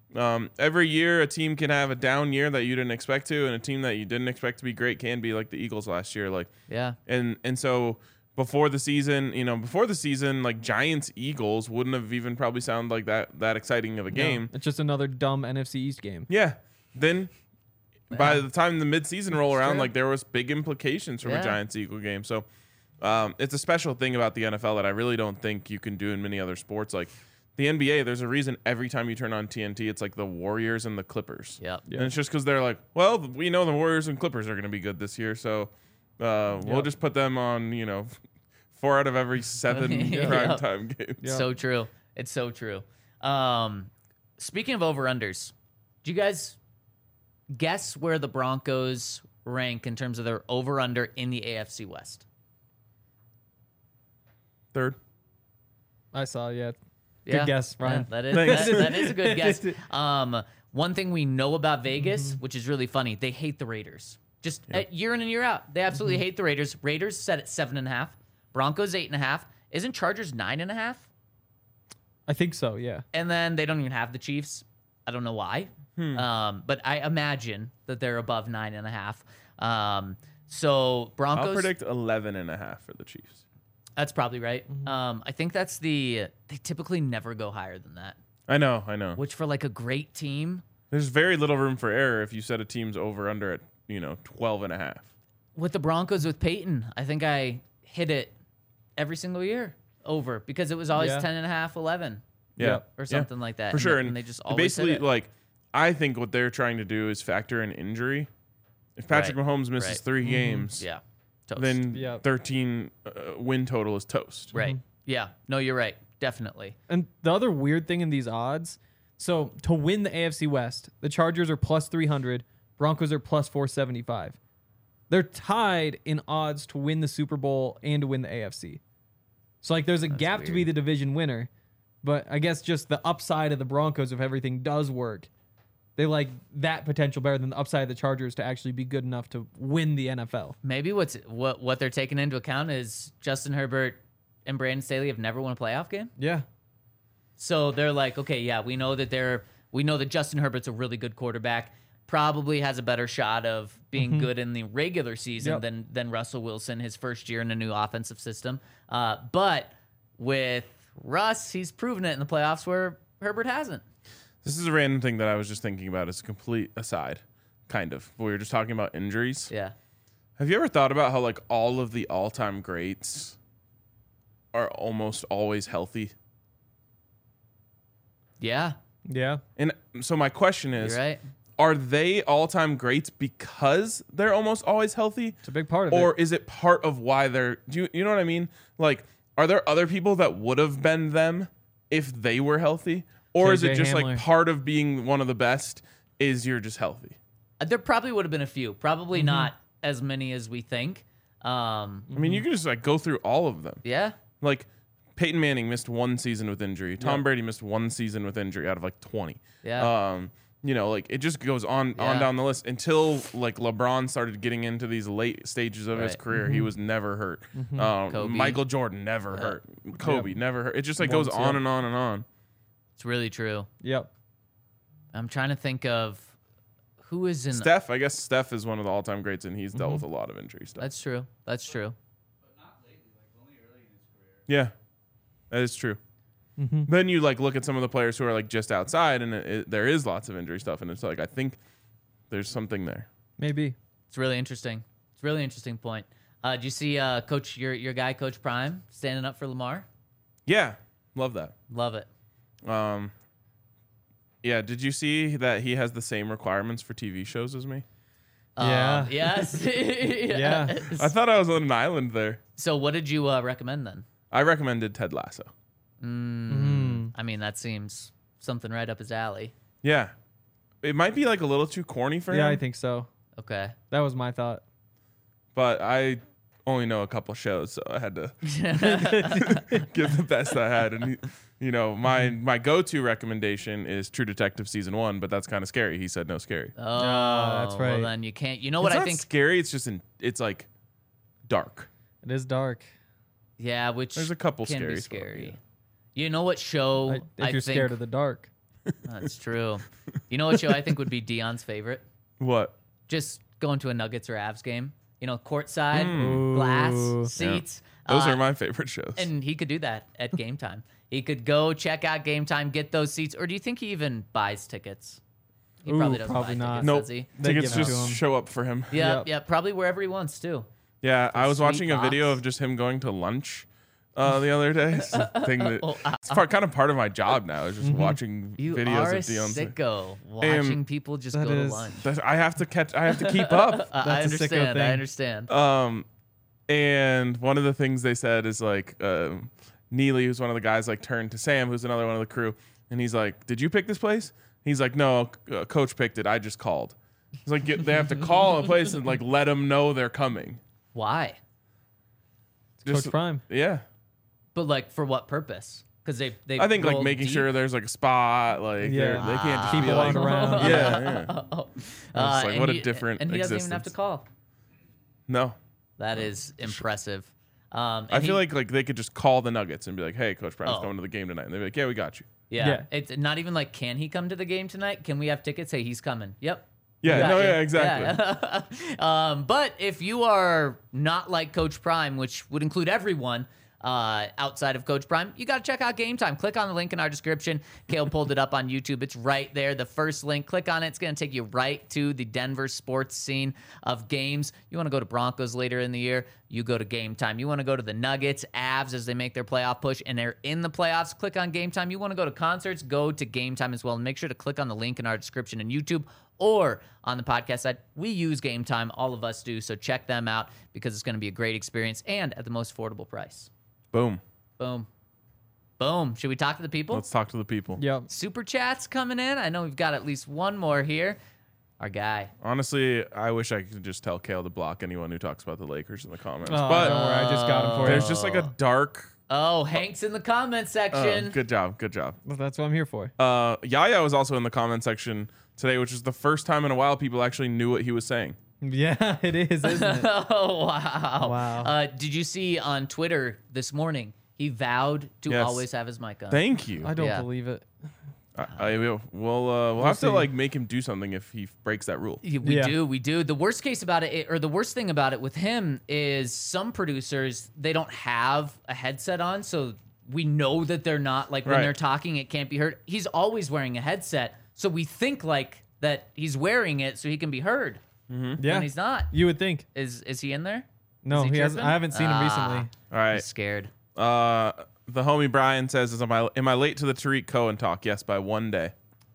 B: Every year, a team can have a down year that you didn't expect to, and a team that you didn't expect to be great can be like the Eagles last year. Like,
C: Yeah.
B: and so before the season, like Giants Eagles wouldn't have even probably sounded like that exciting of a game.
D: No, it's just another dumb NFC East game.
B: Yeah. Then by the time the midseason roll around,
C: true.
B: like there was big implications from a
C: Yeah.
B: Giants Eagle game. So it's a special thing about the NFL that I really don't think you can do in many other sports. Like the NBA, there's a reason every time you turn on TNT, it's like the Warriors and the Clippers.
C: Yep.
B: And it's just because they're like, well, we know the Warriors and Clippers are going to be good this year, so we'll just put them on, 4 out of every 7
C: Yep.
B: primetime games.
D: Yeah.
C: So true. It's so true. Speaking of over-unders, do you guys guess where the Broncos rank in terms of their over-under in the AFC West?
B: Third.
D: I saw, yeah.
C: Yeah.
D: Good guess, Ryan.
C: Yeah, that is a good guess. One thing we know about Vegas, which is really funny, they hate the Raiders. Just year in and year out, they absolutely hate the Raiders. Raiders set at 7.5, Broncos 8.5. Isn't Chargers 9.5?
D: I think so, yeah.
C: And then they don't even have the Chiefs. I don't know why. But I imagine that they're above 9.5. So Broncos.
B: I'll predict 11.5 for the Chiefs.
C: That's probably right. I think that's they typically never go higher than that.
B: I know.
C: Which for like a great team,
B: There's very little room for error if you set a team's over under at 12.5.
C: with the Broncos with Peyton, I think I hit it every single year over because it was always
D: Yeah.
C: 10.5, 11
B: Yeah,
C: or something like that.
B: for sure.
C: And they just always hit
B: basically
C: it.
B: like I think what they're trying to do is factor in injury. If Patrick
C: Right.
B: Mahomes misses
C: Right.
B: 3 games,
C: Yeah. Toast.
B: then
D: Yep.
B: 13 win total is toast.
C: Right. Yeah. No, you're right. Definitely.
D: And the other weird thing in these odds, so to win the AFC West, the Chargers are plus 300, Broncos are plus 475. They're tied in odds to win the Super Bowl and to win the AFC. So like there's a gap to be
C: weird.
D: the division winner, but I guess just the upside of the Broncos if everything does work. They like that potential better than the upside of the Chargers to actually be good enough to win the NFL.
C: Maybe what they're taking into account is Justin Herbert and Brandon Staley have never won a playoff game.
D: Yeah.
C: So they're like, okay, yeah, we know that Justin Herbert's a really good quarterback. Probably has a better shot of being good in the regular season
D: Yep.
C: than Russell Wilson, his first year in a new offensive system. But with Russ, he's proven it in the playoffs where Herbert hasn't.
B: This is a random thing that I was just thinking about as a complete aside, kind of. We were just talking about injuries.
C: Yeah.
B: Have you ever thought about how like all of the all-time greats are almost always healthy?
C: Yeah.
D: Yeah.
B: And so my question is,
C: You're right.
B: are they all-time greats because they're almost always healthy?
D: It's a big part of
B: Or
D: it.
B: is it part of why they're you know what I mean? Like, are there other people that would have been them if they were healthy? Or is it
D: KJ
B: just
D: Hamler.
B: like part of being one of the best is you're just healthy?
C: There probably would have been a few. Probably not as many as we think.
B: I mean, you can just like go through all of them.
C: Yeah.
B: Like Peyton Manning missed 1 season with injury. Tom Brady missed 1 season with injury out of like 20.
C: Yeah.
B: Like it just goes on
C: Yeah.
B: down the list until like LeBron started getting into these late stages of his
C: Right.
B: career. He was never hurt.
C: Kobe.
B: Michael Jordan never hurt. Kobe never hurt. It just like goes
D: Once,
B: on
D: yeah.
B: and on and on.
C: It's really true.
D: Yep.
C: I'm trying to think of who is in.
B: Steph, I guess Steph is one of the all-time greats, and he's dealt with a lot of injury stuff.
C: That's true. That's true.
B: Yeah, that is true. Then you like look at some of the players who are like just outside, and there is lots of injury stuff, and it's like I think there's something there.
D: Maybe.
C: It's really interesting. It's a really interesting point. Did you see Coach your guy Coach Prime standing up for Lamar?
B: Yeah, love that.
C: Love it.
B: Yeah, did you see that he has the same requirements for TV shows as me?
D: Yeah.
C: Yes.
D: Yeah.
B: I thought I was on an island there.
C: So what did you recommend then?
B: I recommended Ted Lasso.
C: I mean, that seems something right up his alley.
B: Yeah, it might be like a little too corny for him.
D: Yeah, I think so.
C: Okay.
D: That was my thought.
B: but I only know a couple shows, so I had to give the best I had. And my go-to recommendation is True Detective season 1, but that's kind of scary. He said no scary.
C: Oh,
D: that's right.
C: Well, then you can't. You know
B: It's
C: what I
B: not
C: think?
B: scary. It's just it's like dark.
D: It is dark.
C: Yeah, which
B: There's a couple
C: can
B: scary
C: be
B: spots,
C: scary.
B: yeah.
C: You know what show
D: If you're
C: think
D: scared of the dark.
C: That's true. You know what show I think would be Dion's favorite?
B: What?
C: Just going to a Nuggets or Avs game. You know, courtside, glass, seats.
B: Those are my favorite shows.
C: And he could do that at Game Time. He could go check out Game Time, get those seats. Or do you think he even buys tickets? He probably doesn't
D: probably
C: buy
D: not.
C: tickets,
B: Nope.
C: does he?
D: They
B: Tickets
D: give it to
B: just
D: him.
B: show up for him.
C: Yeah, yeah, probably wherever he wants to.
B: Yeah, I was
C: Sweet
B: watching a video
C: box.
B: of just him going to lunch the other day. It's a thing that it's kind of part of my job now is just watching
C: You
B: videos
C: are a
B: of Deion.
C: sicko watching people just go to
D: is-
C: lunch.
B: I have to keep up.
C: I
D: That's a sicko
C: understand.
D: thing.
C: I understand.
B: And one of the things they said is like Neely, who's one of the guys, like turned to Sam, who's another one of the crew, and he's like, "Did you pick this place?" He's like, "No, coach picked it. I just called." It's like they have to call a place and like let them know they're coming.
C: Why?
B: Just,
D: Coach Prime.
B: Yeah,
C: But like for what purpose? Because they
B: I think like
C: rolled
B: making
C: deep.
B: sure there's like a spot. Like
D: Yeah.
B: they can't just
D: Keep
B: be
D: it
B: like,
D: on around.
B: yeah. It's like
C: and
B: what
C: he-
B: a different
C: and he doesn't
B: existence.
C: even have to call.
B: No,
C: That is impressive. And
B: I feel
C: he-
B: like they could just call the Nuggets and be like, "Hey, Coach Brown's
C: Oh.
B: coming to the game tonight," and they'd be like, "Yeah, we got you."
C: yeah,
D: Yeah.
C: it's not even like, can he come to the game tonight? Can we have tickets? Hey, he's coming. Yep.
B: Yeah,
C: Got
B: no,
C: you.
B: yeah, exactly.
C: Yeah. But if you are not like Coach Prime, which would include everyone outside of Coach Prime, you got to check out Game Time. Click on the link in our description. Kale pulled it up on YouTube. It's right there. The first link. Click on it. It's going to take you right to the Denver sports scene of games. You want to go to Broncos later in the year, you go to Game Time. You want to go to the Nuggets, Avs as they make their playoff push and they're in the playoffs, click on Game Time. You want to go to concerts, go to Game Time as well. And make sure to click on the link in our description in YouTube or on the podcast side. We use Game Time. All of us do. So check them out because it's going to be a great experience and at the most affordable price.
B: Boom.
C: Boom. Boom. Should we talk to the people?
B: Let's talk to the people.
D: Yep.
C: Super chats coming in. I know we've got at least one more here. Our guy.
B: Honestly, I wish I could just tell Kale to block anyone who talks about the Lakers in the comments.
D: Oh,
B: but
D: don't worry, I just got him for
B: there's
D: you.
B: just like a dark.
C: Oh, Hank's in the comment section.
B: Good job. Good job.
D: Well, that's what I'm here for.
B: Yaya was also in the comment section today, which is the first time in a while people actually knew what he was saying.
D: Yeah, it is, isn't it?
C: Oh, wow.
D: Wow.
C: Did you see on Twitter this morning, he vowed to
B: Yes.
C: always have his mic on.
B: Thank you.
D: I don't
C: Yeah.
D: believe it.
B: We'll have
D: see.
B: to like make him do something if he breaks that rule.
C: We
D: Yeah.
C: do, we do. The worst case about it, or the worst thing about it with him is some producers, they don't have a headset on, so we know that they're not, like when
B: Right.
C: they're talking, it can't be heard. He's always wearing a headset, so we think like that he's wearing it so he can be heard.
D: Yeah,
C: When he's not.
D: you would think.
C: Is he in there?
D: No,
C: Is
D: he hasn't.
C: tripping?
D: I haven't seen him recently.
B: All
C: He's
B: right.
C: scared.
B: The homie Brian says, am I late to the Tariq Cohen talk? Yes, by one day.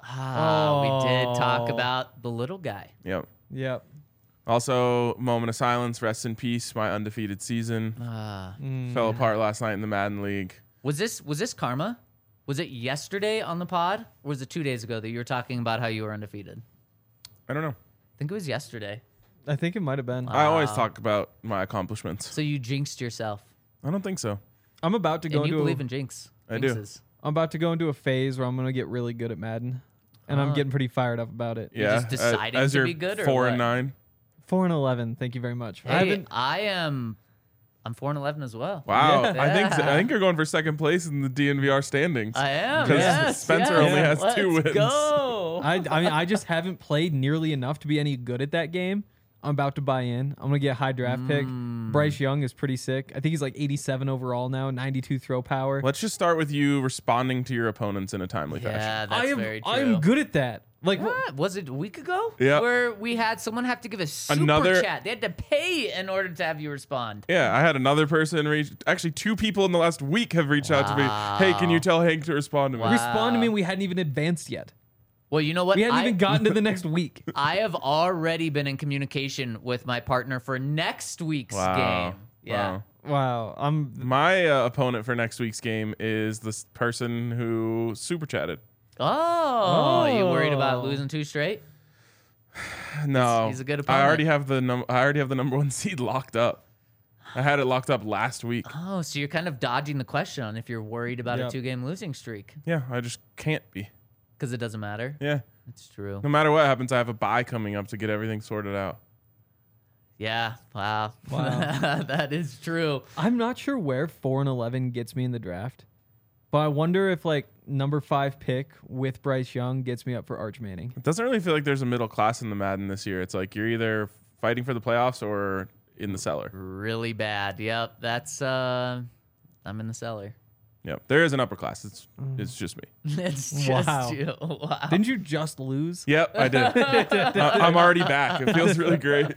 C: We did talk
D: Oh.
C: about the little guy.
B: Yep.
D: Yep.
B: Also, moment of silence. Rest in peace. My undefeated season fell apart last night in the Madden League.
C: Was this karma? Was it yesterday on the pod, or was it 2 days ago that you were talking about how you were undefeated?
B: I don't know.
C: I think it was yesterday.
D: I think it might have been.
B: I always talk about my accomplishments.
C: So you jinxed yourself.
B: I don't think so.
D: I'm about to go
C: And you
D: into.
C: believe in jinx.
B: I do.
C: Jinxes.
D: I'm about to go into a phase where I'm gonna get really good at Madden, and I'm getting pretty fired up about it.
B: Yeah.
C: just deciding
B: as
C: to
B: you're
C: be good, or
B: 4-9.
D: 4-11. Thank you very much. I
C: Hey,
D: haven't.
C: I'm 4-11 as well.
B: Wow.
D: Yeah.
B: I think you're going for second place in the DNVR standings.
C: I am.
B: Because
C: Yes,
B: Spencer
C: yes.
B: only has
C: Let's
B: 2 wins.
C: Go.
D: I mean, I just haven't played nearly enough to be any good at that game. I'm about to buy in. I'm gonna get a high draft pick. Bryce Young is pretty sick. I think he's like 87 overall now, 92 throw power.
B: Let's just start with you responding to your opponents in a timely fashion.
C: Yeah, that's very true.
D: I'm good at that. Like
C: What? Was it a week ago?
B: Yeah.
C: Where we had someone have to give a super
B: Another-
C: chat. They had to pay in order to have you respond.
B: Yeah, I had another person actually 2 people in the last week have reached out to me. Hey, can you tell Hank to respond to me?
C: Wow.
D: respond to me. We hadn't even advanced yet.
C: Well, you know what?
D: We hadn't even gotten to the next week.
C: I have already been in communication with my partner for next week's
B: Wow.
C: game. Yeah.
B: Wow.
D: Wow.
B: My opponent for next week's game is this person who super chatted.
C: Oh, you worried about
D: Oh.
C: losing 2 straight?
B: No,
C: He's a good
B: I already
C: opponent.
B: have the number 1 seed locked up. I had it locked up last week.
C: Oh, so you're kind of dodging the question on if you're worried about a
D: Yep.
C: 2-game losing streak
B: Yeah, I just can't be.
C: because it doesn't matter.
B: Yeah,
C: It's true.
B: no matter what happens, I have a bye coming up to get everything sorted out.
C: Yeah. Wow.
D: Wow.
C: That is true.
D: I'm not sure where 4-11 gets me in the draft. But I wonder if like number 5 pick with Bryce Young gets me up for Arch Manning.
B: It doesn't really feel like there's a middle class in the Madden this year. It's like you're either fighting for the playoffs or in the cellar.
C: Really bad. Yep. That's I'm in the cellar.
B: Yep. There is an upper class. It's just me.
C: It's just
D: Wow.
C: you. Wow.
D: Didn't you just lose?
B: Yep, I did. I'm already back. It feels really great.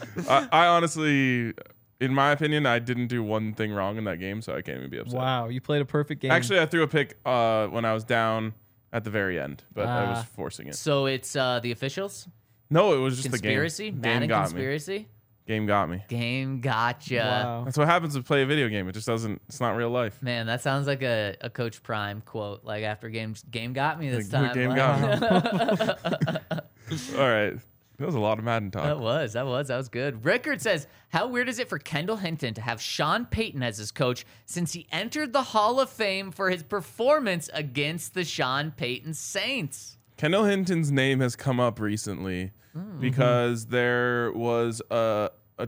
B: I honestly, in my opinion, I didn't do one thing wrong in that game, so I can't even be upset.
D: Wow, you played a perfect game.
B: Actually, I threw a pick when I was down at the very end, but I was
D: Ah.
B: forcing it.
C: So it's the officials?
B: No, it was just
C: Conspiracy?
B: the game.
C: Madden
B: Game got
C: conspiracy?
B: me. Game got me.
C: Game gotcha.
D: Wow.
B: That's what happens to play a video game. It just doesn't. It's not real life.
C: Man, that sounds like a Coach Prime quote. Like after game got me this
B: Like,
C: time.
B: game
C: Like,
B: got me. All right, that was a lot of Madden talk.
C: That was good. Rickard says, how weird is it for Kendall Hinton to have Sean Payton as his coach since he entered the Hall of Fame for his performance against the Sean Payton Saints?
B: Kendall Hinton's name has come up recently because there was a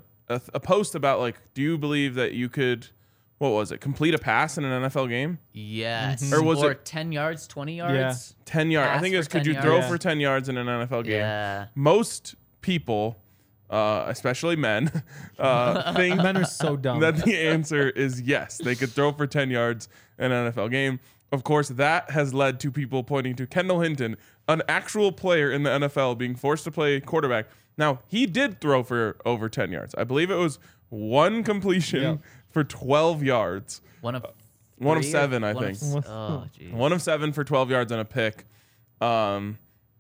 B: post about like, do you believe that you could, what was it, complete a pass in an NFL game?
C: Yes.
B: Or was it
C: 10 yards, 20 yards?
B: 10 yards. I
C: Pass
B: think it was,
C: for
B: could
C: 10
B: you throw
C: yards.
B: for 10 yards in an NFL game?
C: Yeah.
B: Most people, especially men, think
D: Men are so dumb.
B: that the answer is yes. They could throw for 10 yards in an NFL game. Of course, that has led to people pointing to Kendall Hinton, an actual player in the NFL, being forced to play quarterback. Now, he did throw for over 10 yards. I believe it was one completion
D: Yep.
B: for 12 yards.
C: One of
B: One of
C: three or-
B: 7, I
C: one of
B: think.
C: oh, geez.
B: 1 of 7 for 12 yards and a pick. And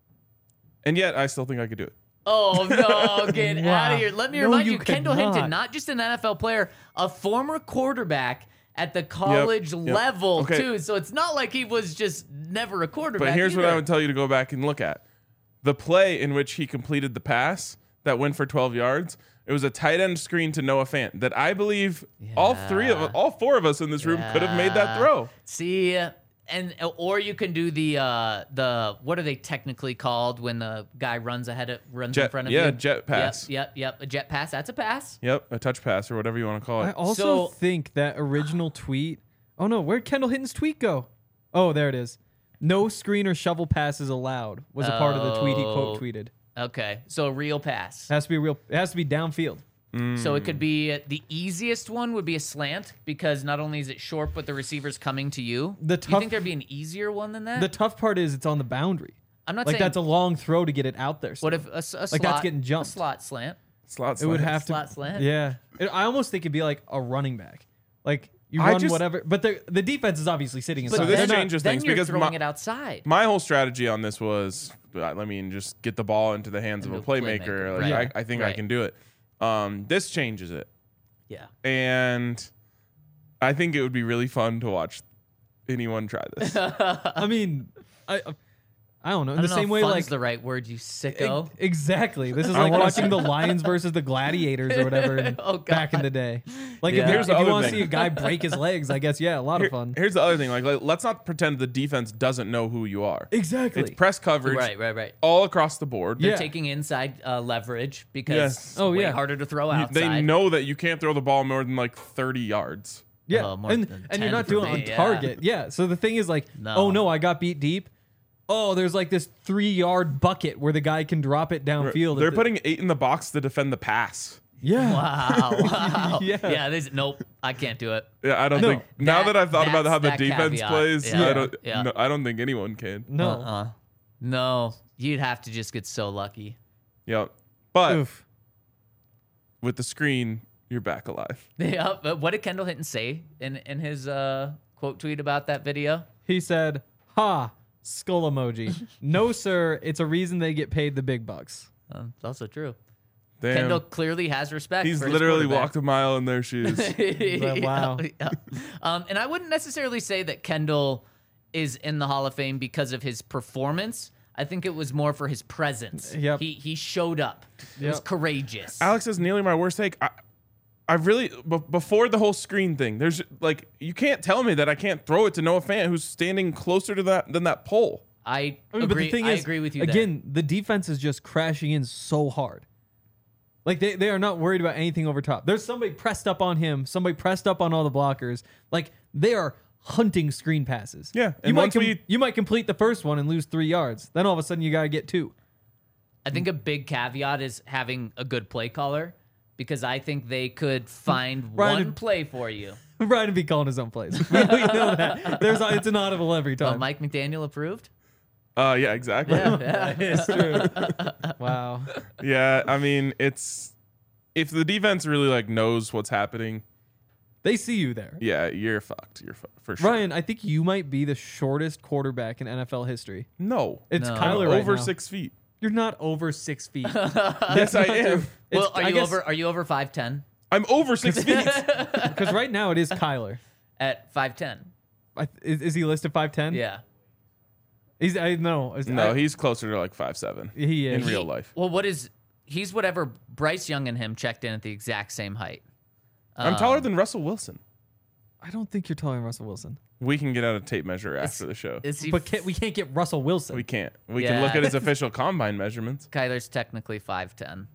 B: yet, I still think I could do it.
C: Oh, no, get
D: Wow.
C: out of here. Let me
D: No,
C: remind
D: you
C: you, Kendall
D: cannot.
C: Hinton, not just an NFL player, a former quarterback at the college
B: yep.
C: level,
B: Okay.
C: too. So it's not like he was just never a quarterback.
B: But here's what I
C: either.
B: would tell you to go back and look at. The play in which he completed the pass that went for 12 yards, it was a tight end screen to Noah Fant that I believe all 4 of us in this room could have made that throw.
C: See, or you can do the what are they technically called when the guy runs in front of you?
B: Jet pass.
C: Yep. A jet pass. That's a pass.
B: Yep, a touch pass or whatever you want to call
D: I
B: it.
D: also
C: So-
D: think that original tweet. Oh no, where'd Kendall Hinton's tweet go? Oh, there it is. No screen or shovel passes allowed was a part of the tweet he quote tweeted.
C: Okay, so a real pass.
D: It has to be real. It has to be downfield.
C: So it could be the easiest one would be a slant because not only is it short, but the receiver's coming to you.
D: The
C: you
D: tough-
C: think there'd be an easier one than that?
D: The tough part is it's on the boundary.
C: I'm not
D: Like
C: saying
D: that's a long throw to get it out there.
C: What if a slot?
D: that's getting jumped.
C: A slot slant.
B: Slot
D: it would
B: slant.
D: have to.
C: Slot slant?
D: Yeah, I almost think it'd be like a running back. Like you
B: I
D: run
B: just-
D: whatever, but the defense is obviously sitting inside.
B: So this
D: They're not-
B: changes
C: then
B: things
C: you're
B: because
C: throwing it outside.
B: my whole strategy on this was, I mean, just get the ball into the hands of a
C: Into a
B: playmaker.
C: playmaker,
B: Like,
C: right.
B: I think I
C: Right.
B: can do it. This changes it.
C: Yeah.
B: And I think it would be really fun to watch anyone try this.
D: I mean, I don't know. In
C: I
D: the
C: don't know
D: same
C: if
D: way,
C: fun's
D: like
C: the right word, you sicko.
D: exactly. This is like watching the Lions versus the Gladiators or whatever
C: Oh,
D: back in the day. Like
C: Yeah.
D: if,
B: Here's
D: if
B: the
D: you
B: other
D: want to
B: thing.
D: see a guy break his legs, I guess a lot of fun.
B: Here's the other thing. Like, let's not pretend the defense doesn't know who you are.
D: Exactly.
B: It's press coverage
C: Right.
B: all across the board.
C: They're
D: Yeah.
C: taking inside leverage because
B: Yes.
C: it's
D: Oh,
C: way
D: yeah.
C: harder to throw outside.
B: They know that you can't throw the ball more than like 30 yards.
D: Yeah,
C: more
D: and
C: than
D: you're
C: 10
D: not
C: for
D: doing it
C: me,
D: on
C: yeah.
D: target. Yeah. So the thing is like,
C: No.
D: oh no, I got beat deep. Oh, there's like this 3-yard bucket where the guy can drop it downfield.
B: They're putting 8 in the box to defend the pass.
D: Yeah.
C: Wow.
D: Yeah.
C: Nope, I can't do it.
B: Yeah, I don't
D: No.
B: think. Now that I've thought about how the
C: That's that
B: defense
C: caveat.
B: plays,
C: Yeah.
B: I don't think anyone can.
D: No.
C: No, you'd have to just get so lucky.
B: Yep. But
D: Oof.
B: with the screen, you're back alive.
C: Yeah, but what did Kendall Hinton say in his quote tweet about that video?
D: He said, "Ha, skull emoji." No, sir. It's a reason they get paid the big bucks.
C: It's also true.
B: Damn.
C: Kendall clearly has respect.
B: He's
C: for his
B: literally
C: quarterback.
B: walked a mile in their shoes.
D: Wow.
C: Yeah. And I wouldn't necessarily say that Kendall is in the Hall of Fame because of his performance. I think it was more for his presence.
D: Yep.
C: He showed up. He was
D: Yep.
C: courageous.
B: Alex is nearly my worst take. I really before the whole screen thing. There's like you can't tell me that I can't throw it to Noah Fant, who's standing closer to that than that pole.
C: I
D: mean,
C: agree.
D: but the thing
C: I
D: is,
C: agree with you.
D: Again, the defense is just crashing in so hard. Like they are not worried about anything over top. There's somebody pressed up on him, somebody pressed up on all the blockers. Like they are hunting screen passes.
B: Yeah,
D: you
B: and
D: might
B: once
D: you might complete the first one and lose 3 yards. Then all of a sudden you gotta get 2.
C: I think a big caveat is having a good play caller, because I think they could find
D: Ryan-
C: one play for you.
D: Brian would be calling his own plays. we know that. It's an audible every time.
C: Mike McDaniel approved.
B: Yeah, exactly.
C: Yeah.
D: It's true. Wow.
B: Yeah, I mean, it's if the defense really like knows what's happening,
D: They see you there.
B: yeah, you're fucked. You're for sure.
D: Ryan, I think you might be the shortest quarterback in NFL history.
B: No,
D: It's
C: No.
D: Kyler
B: I'm
D: right
B: over
D: now.
B: 6 feet.
D: You're not over 6 feet.
B: Yes, I am.
C: Well,
D: I guess-
C: are you over 5'10"?
B: I'm over 6 feet.
D: Because right now it is Kyler.
C: At 5'10"?
D: Is he listed 5'10"?
C: Yeah.
D: No,
B: He's closer to like 5'7"
D: he is.
B: in real life.
C: Well, he's whatever Bryce Young and him checked in at the exact same height.
B: I'm taller than Russell Wilson.
D: I don't think you're taller than Russell Wilson.
B: We can get out a tape measure after the show.
C: Is he?
D: But we can't get Russell Wilson.
B: We can't. We
C: Yeah.
B: can look at his official combine measurements.
C: Kyler's technically 5'10".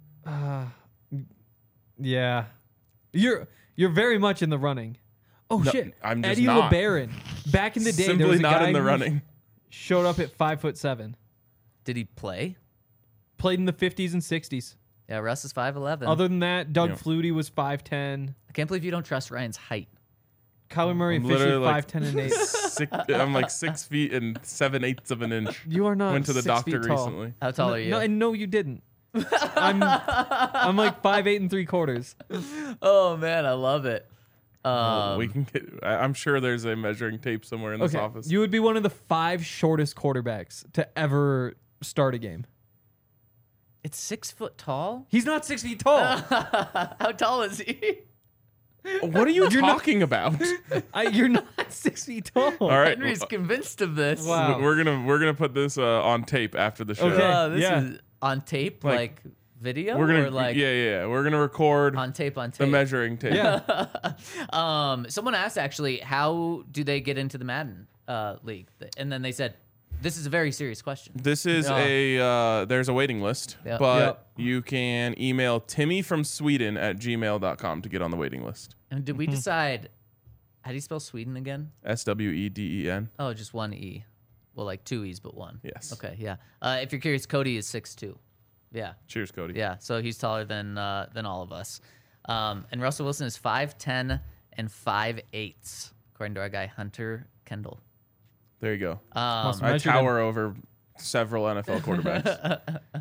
D: Yeah, you're very much in the running. Oh shit!
B: I'm just
D: Eddie
B: not.
D: LeBaron. Back in the day, there
B: Simply
D: was a
B: not
D: guy
B: in the
D: who
B: running.
D: showed up at 5'7".
C: Did he play?
D: Played in the 50s and 60s.
C: Yeah, Russ is 5'11".
D: Other than that, Doug
B: Yeah.
D: Flutie was 5'10".
C: I can't believe you don't trust Ryan's height.
D: Kyler Murray
B: I'm
D: officially
B: literally like
D: 5'10" and 8.
B: I'm like 6 feet and 7/8 of an inch.
D: You are not.
B: Went to the
D: 6
B: doctor
D: feet tall.
B: recently.
C: How tall are you?
D: No, and no, you didn't. I'm like 5'8" and 3/4.
C: Oh man, I love it.
B: We can get. I'm sure there's a measuring tape somewhere in this
D: Okay,
B: office.
D: you would be one of the 5 shortest quarterbacks to ever start a game.
C: It's 6 foot tall.
D: He's not 6 feet tall.
C: How tall is he?
B: What are you talking about?
D: You're not 6 feet tall.
B: All right,
C: Henry's convinced of this.
D: Wow.
B: we're gonna put this on tape after the show.
D: Okay.
C: This
D: Yeah.
C: is on tape,
B: Like,
C: like video,
B: We're gonna
C: or like
B: yeah. We're gonna record
C: on tape.
B: the measuring tape.
D: Yeah.
C: Someone asked actually, how do they get into the Madden league? And then they said, this is a very serious question.
B: This is there's a waiting list,
C: Yep.
B: but
D: Yep.
B: you can email timmyfromsweden@gmail.com to get on the waiting list.
C: And did we decide, how do you spell Sweden again?
B: SWEDEN.
C: Oh, just one E. Well, like 2 E's, but one.
B: Yes.
C: Okay, yeah. If you're curious, Cody is 6'2". Yeah.
B: Cheers, Cody.
C: Yeah, so he's taller than all of us. And Russell Wilson is 5'10" and 5'8", according to our guy Hunter Kendall.
B: There you go.
D: Must
B: I
D: measure
B: tower over several NFL quarterbacks.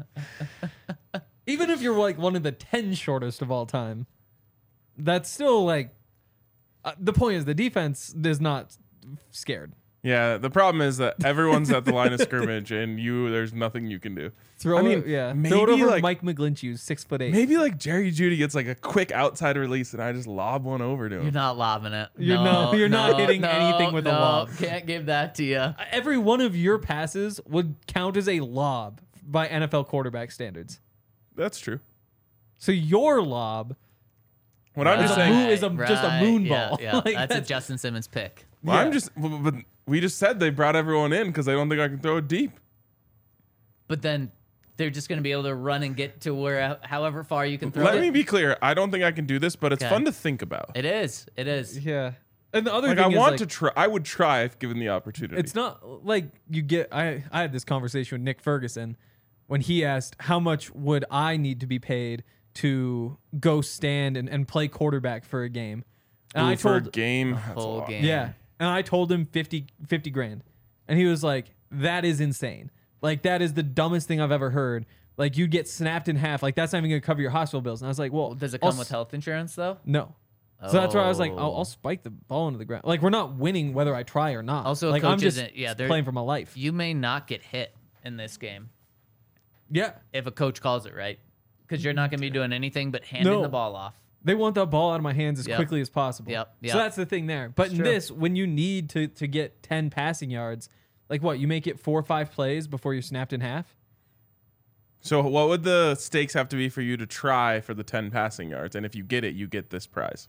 D: Even if you're like one of the 10 shortest of all time, that's still like. The point is the defense is not scared.
B: Yeah, the problem is that everyone's at the line of scrimmage, and there's nothing you can do.
D: Throw
B: I mean,
D: it, yeah.
B: maybe
D: Throw it over
B: like
D: Mike McGlinchew's 6'8".
B: maybe like Jerry Jeudy gets like a quick outside release, and I just lob one over to him.
C: You're not lobbing it.
D: You're not hitting anything with a lob.
C: Can't give that to you.
D: Every one of your passes would count as a lob by NFL quarterback standards.
B: That's true.
D: So your lob
B: What I'm just
D: a
B: saying.
D: moon- is just a moon ball.
C: Yeah,
D: Like,
C: that's a
D: that's-
C: Justin Simmons pick.
B: Well,
D: Yeah.
B: I'm just. But we just said they brought everyone in because they don't think I can throw it deep.
C: But then they're just going to be able to run and get to however far you can throw
B: Let
C: it.
B: me be clear. I don't think I can do this, but it's
C: Okay.
B: fun to think about.
C: It is. It is.
D: Yeah. And the other
B: Like
D: thing
B: I
D: is
B: want
D: like,
B: to try. I would try if given the opportunity.
D: it's not like you get. I had this conversation with Nick Ferguson when he asked how much would I need to be paid to go stand and play quarterback for a game. And I
B: for a
D: told
B: game. That's a
C: Whole
B: lot.
C: game.
D: yeah, and I told him 50 grand, and he was like, "That is insane. Like that is the dumbest thing I've ever heard. Like you get snapped in half. Like that's not even gonna cover your hospital bills." And I was like, "Well,
C: Does it
D: I'll
C: come with health insurance though?
D: No." So that's why I was like,
C: Oh.
D: I'll spike the ball into the ground. Like we're not winning whether I try or not.
C: Also, a
D: like
C: coach
D: I'm just
C: isn't- yeah, they're-
D: playing for my life.
C: You may not get hit in this game
D: Yeah,
C: if a coach calls it right, because you're not going to be doing anything but handing
D: No.
C: the ball off.
D: they want that ball out of my hands as
C: Yep.
D: quickly as possible.
C: Yep,
D: So
C: yep.
D: that's the thing there. But in
C: true.
D: this, when you need to get 10 passing yards, like what you make it 4 or 5 plays before you're snapped in half.
B: So what would the stakes have to be for you to try for the 10 passing yards? And if you get it, you get this prize.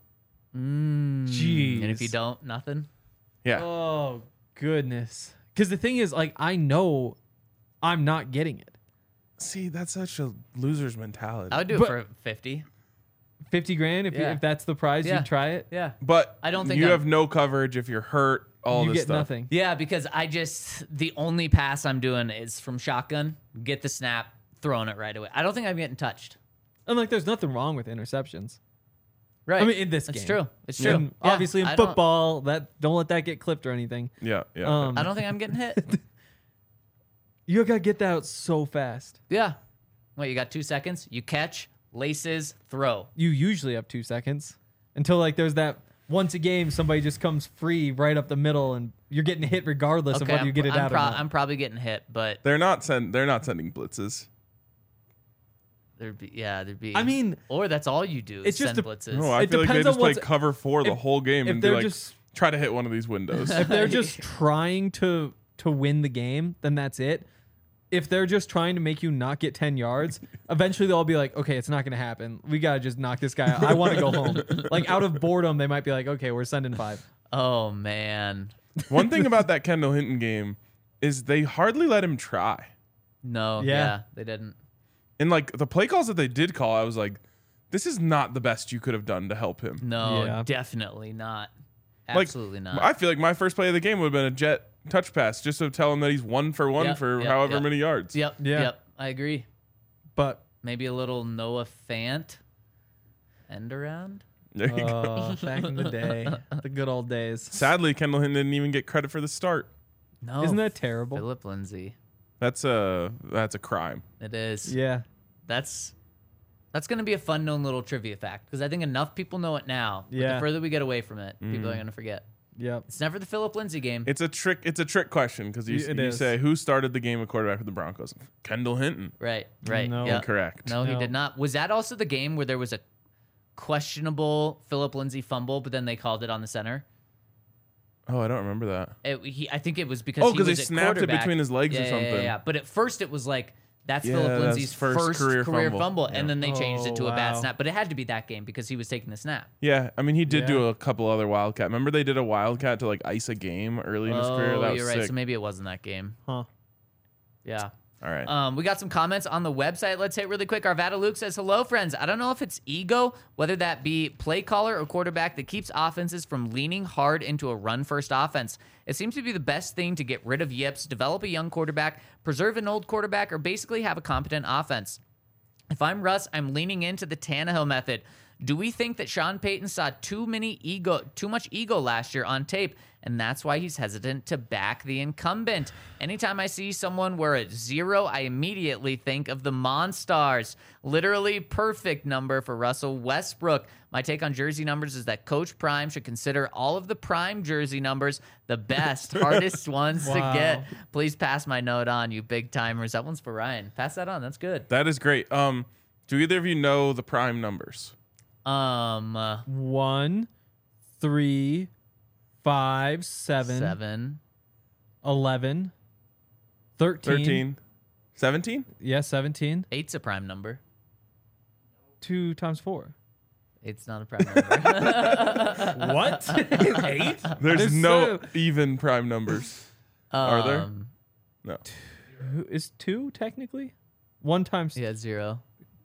D: Jeez.
C: And if you don't, nothing.
B: Yeah.
D: Oh goodness. Because the thing is, like, I know I'm not getting it.
B: See, that's such a loser's mentality.
C: I would do
D: But-
C: it for 50.
D: 50 grand if that's the prize,
C: Yeah.
D: you try it.
C: Yeah.
B: But
C: I don't think
B: you
C: I'm-
B: have no coverage if you're hurt. All
D: You
B: this
D: get
B: stuff.
D: nothing.
C: Yeah, because the only pass I'm doing is from shotgun, get the snap, throwing it right away. I don't think I'm getting touched.
D: And like, there's nothing wrong with interceptions.
C: Right.
D: I mean, in this
C: It's
D: game.
C: true. It's true.
D: And
C: Yeah,
D: obviously in
C: I don't-
D: football, don't let that get clipped or anything.
B: Yeah.
D: Um,
C: I don't think I'm getting hit.
D: You gotta get that out so fast.
C: Yeah. What, you got 2 seconds? You catch, laces, throw.
D: You usually have 2 seconds until like there's that once a game somebody just comes free right up the middle and you're getting hit regardless of whether you get it out or not.
C: I'm probably getting hit, but
B: They're not sending blitzes.
C: there'd be.
D: I mean,
C: or that's all you do.
D: it's
C: Is
D: just
C: send
D: a-
C: blitzes.
B: No, I
D: It
B: feel like they
D: depends on
B: just play
D: what's-
B: cover 4 the
D: if-
B: whole game
D: if
B: and be
D: they're
B: like,
D: just-
B: try to hit one of these windows.
D: if they're just trying to win the game, then that's it. If they're just trying to make you not get 10 yards, eventually they'll be like, okay, it's not going to happen. We got to just knock this guy out. I want to go home. Like, out of boredom, they might be like, okay, we're sending 5.
C: Oh man.
B: One thing about that Kendall Hinton game is they hardly let him try.
C: No.
D: Yeah.
C: Yeah. They didn't.
B: And like the play calls that they did call, I was like, this is not the best you could have done to help him.
C: No.
D: Yeah.
C: Definitely not.
B: Like,
C: Absolutely not.
B: I feel like my first play of the game would have been a jet touch pass just to tell him that he's 1 for 1
C: Yep,
B: for
C: yep,
B: however
C: yep.
B: many yards.
C: Yep.
D: Yeah.
C: Yep. I agree.
D: But
C: Maybe a little Noah Fant end around.
B: There you go.
D: back in the day, the good old days.
B: Sadly, Kendall Hinton didn't even get credit for the start.
C: No.
D: Isn't that terrible?
C: Philip Lindsay?
B: That's a crime.
C: It is.
D: Yeah.
C: That's going to be a fun known little trivia fact because I think enough people know it now. But
D: Yeah.
C: the further we get away from it, people are going to forget.
D: Yep.
C: It's never the Philip Lindsay game.
B: It's a trick question because you
D: It is.
B: say who started the game at quarterback for the Broncos? Kendall Hinton.
C: Right.
D: No.
C: Yeah.
B: Incorrect.
C: No, he
D: No.
C: did not. Was that also the game where there was a questionable Philip Lindsay fumble, but then they called it on the center?
B: Oh, I don't remember that.
C: I think it was because
B: Oh,
C: he
B: 'cause
C: was
B: they
C: at
B: snapped it
C: quarterback.
B: between his legs or
C: Yeah,
B: something.
C: Yeah. But at first it was like that's
B: Yeah,
C: Philip
B: that's
C: Lindsay's
B: first
C: career
B: career
C: fumble,
B: fumble.
C: and then they changed it to a bad
D: wow.
C: snap. But it had to be that game because he was taking the snap.
B: Yeah, I mean he did do
D: Yeah.
B: a couple other wildcat. Remember they did a wildcat to like ice a game early in his career. That was
C: you're right.
B: sick.
C: So maybe it wasn't that game.
D: Huh.
C: Yeah.
B: All right.
C: We got some comments on the website. Let's hit really quick. Arvada Luke says, hello, friends. I don't know if it's ego, whether that be play caller or quarterback, that keeps offenses from leaning hard into a run-first offense. It seems to be the best thing to get rid of yips, develop a young quarterback, preserve an old quarterback, or basically have a competent offense. If I'm Russ, I'm leaning into the Tannehill method. Do we think that Sean Payton saw too much ego last year on tape, and that's why he's hesitant to back the incumbent? Anytime I see someone wear a 0, I immediately think of the Monstars. Literally perfect number for Russell Westbrook. My take on jersey numbers is that Coach Prime should consider all of the Prime jersey numbers the best, hardest ones to
D: Wow.
C: get. Please pass my note on, you big timers. That one's for Ryan. Pass that on. That's good.
B: That is great. Do either of you know the prime numbers?
D: 1, 3, 5, 7,
C: 7.
D: 11, 13.
B: 13. 17?
D: Yeah, 17.
C: 8's a prime number.
D: 2 times 4.
C: It's not a prime number.
D: What? 8?
B: There's
D: There's
B: no
D: so-
B: even prime numbers. Are there?
C: Um,
B: No.
D: Is 2 technically? 1 times.
C: Yeah, 0.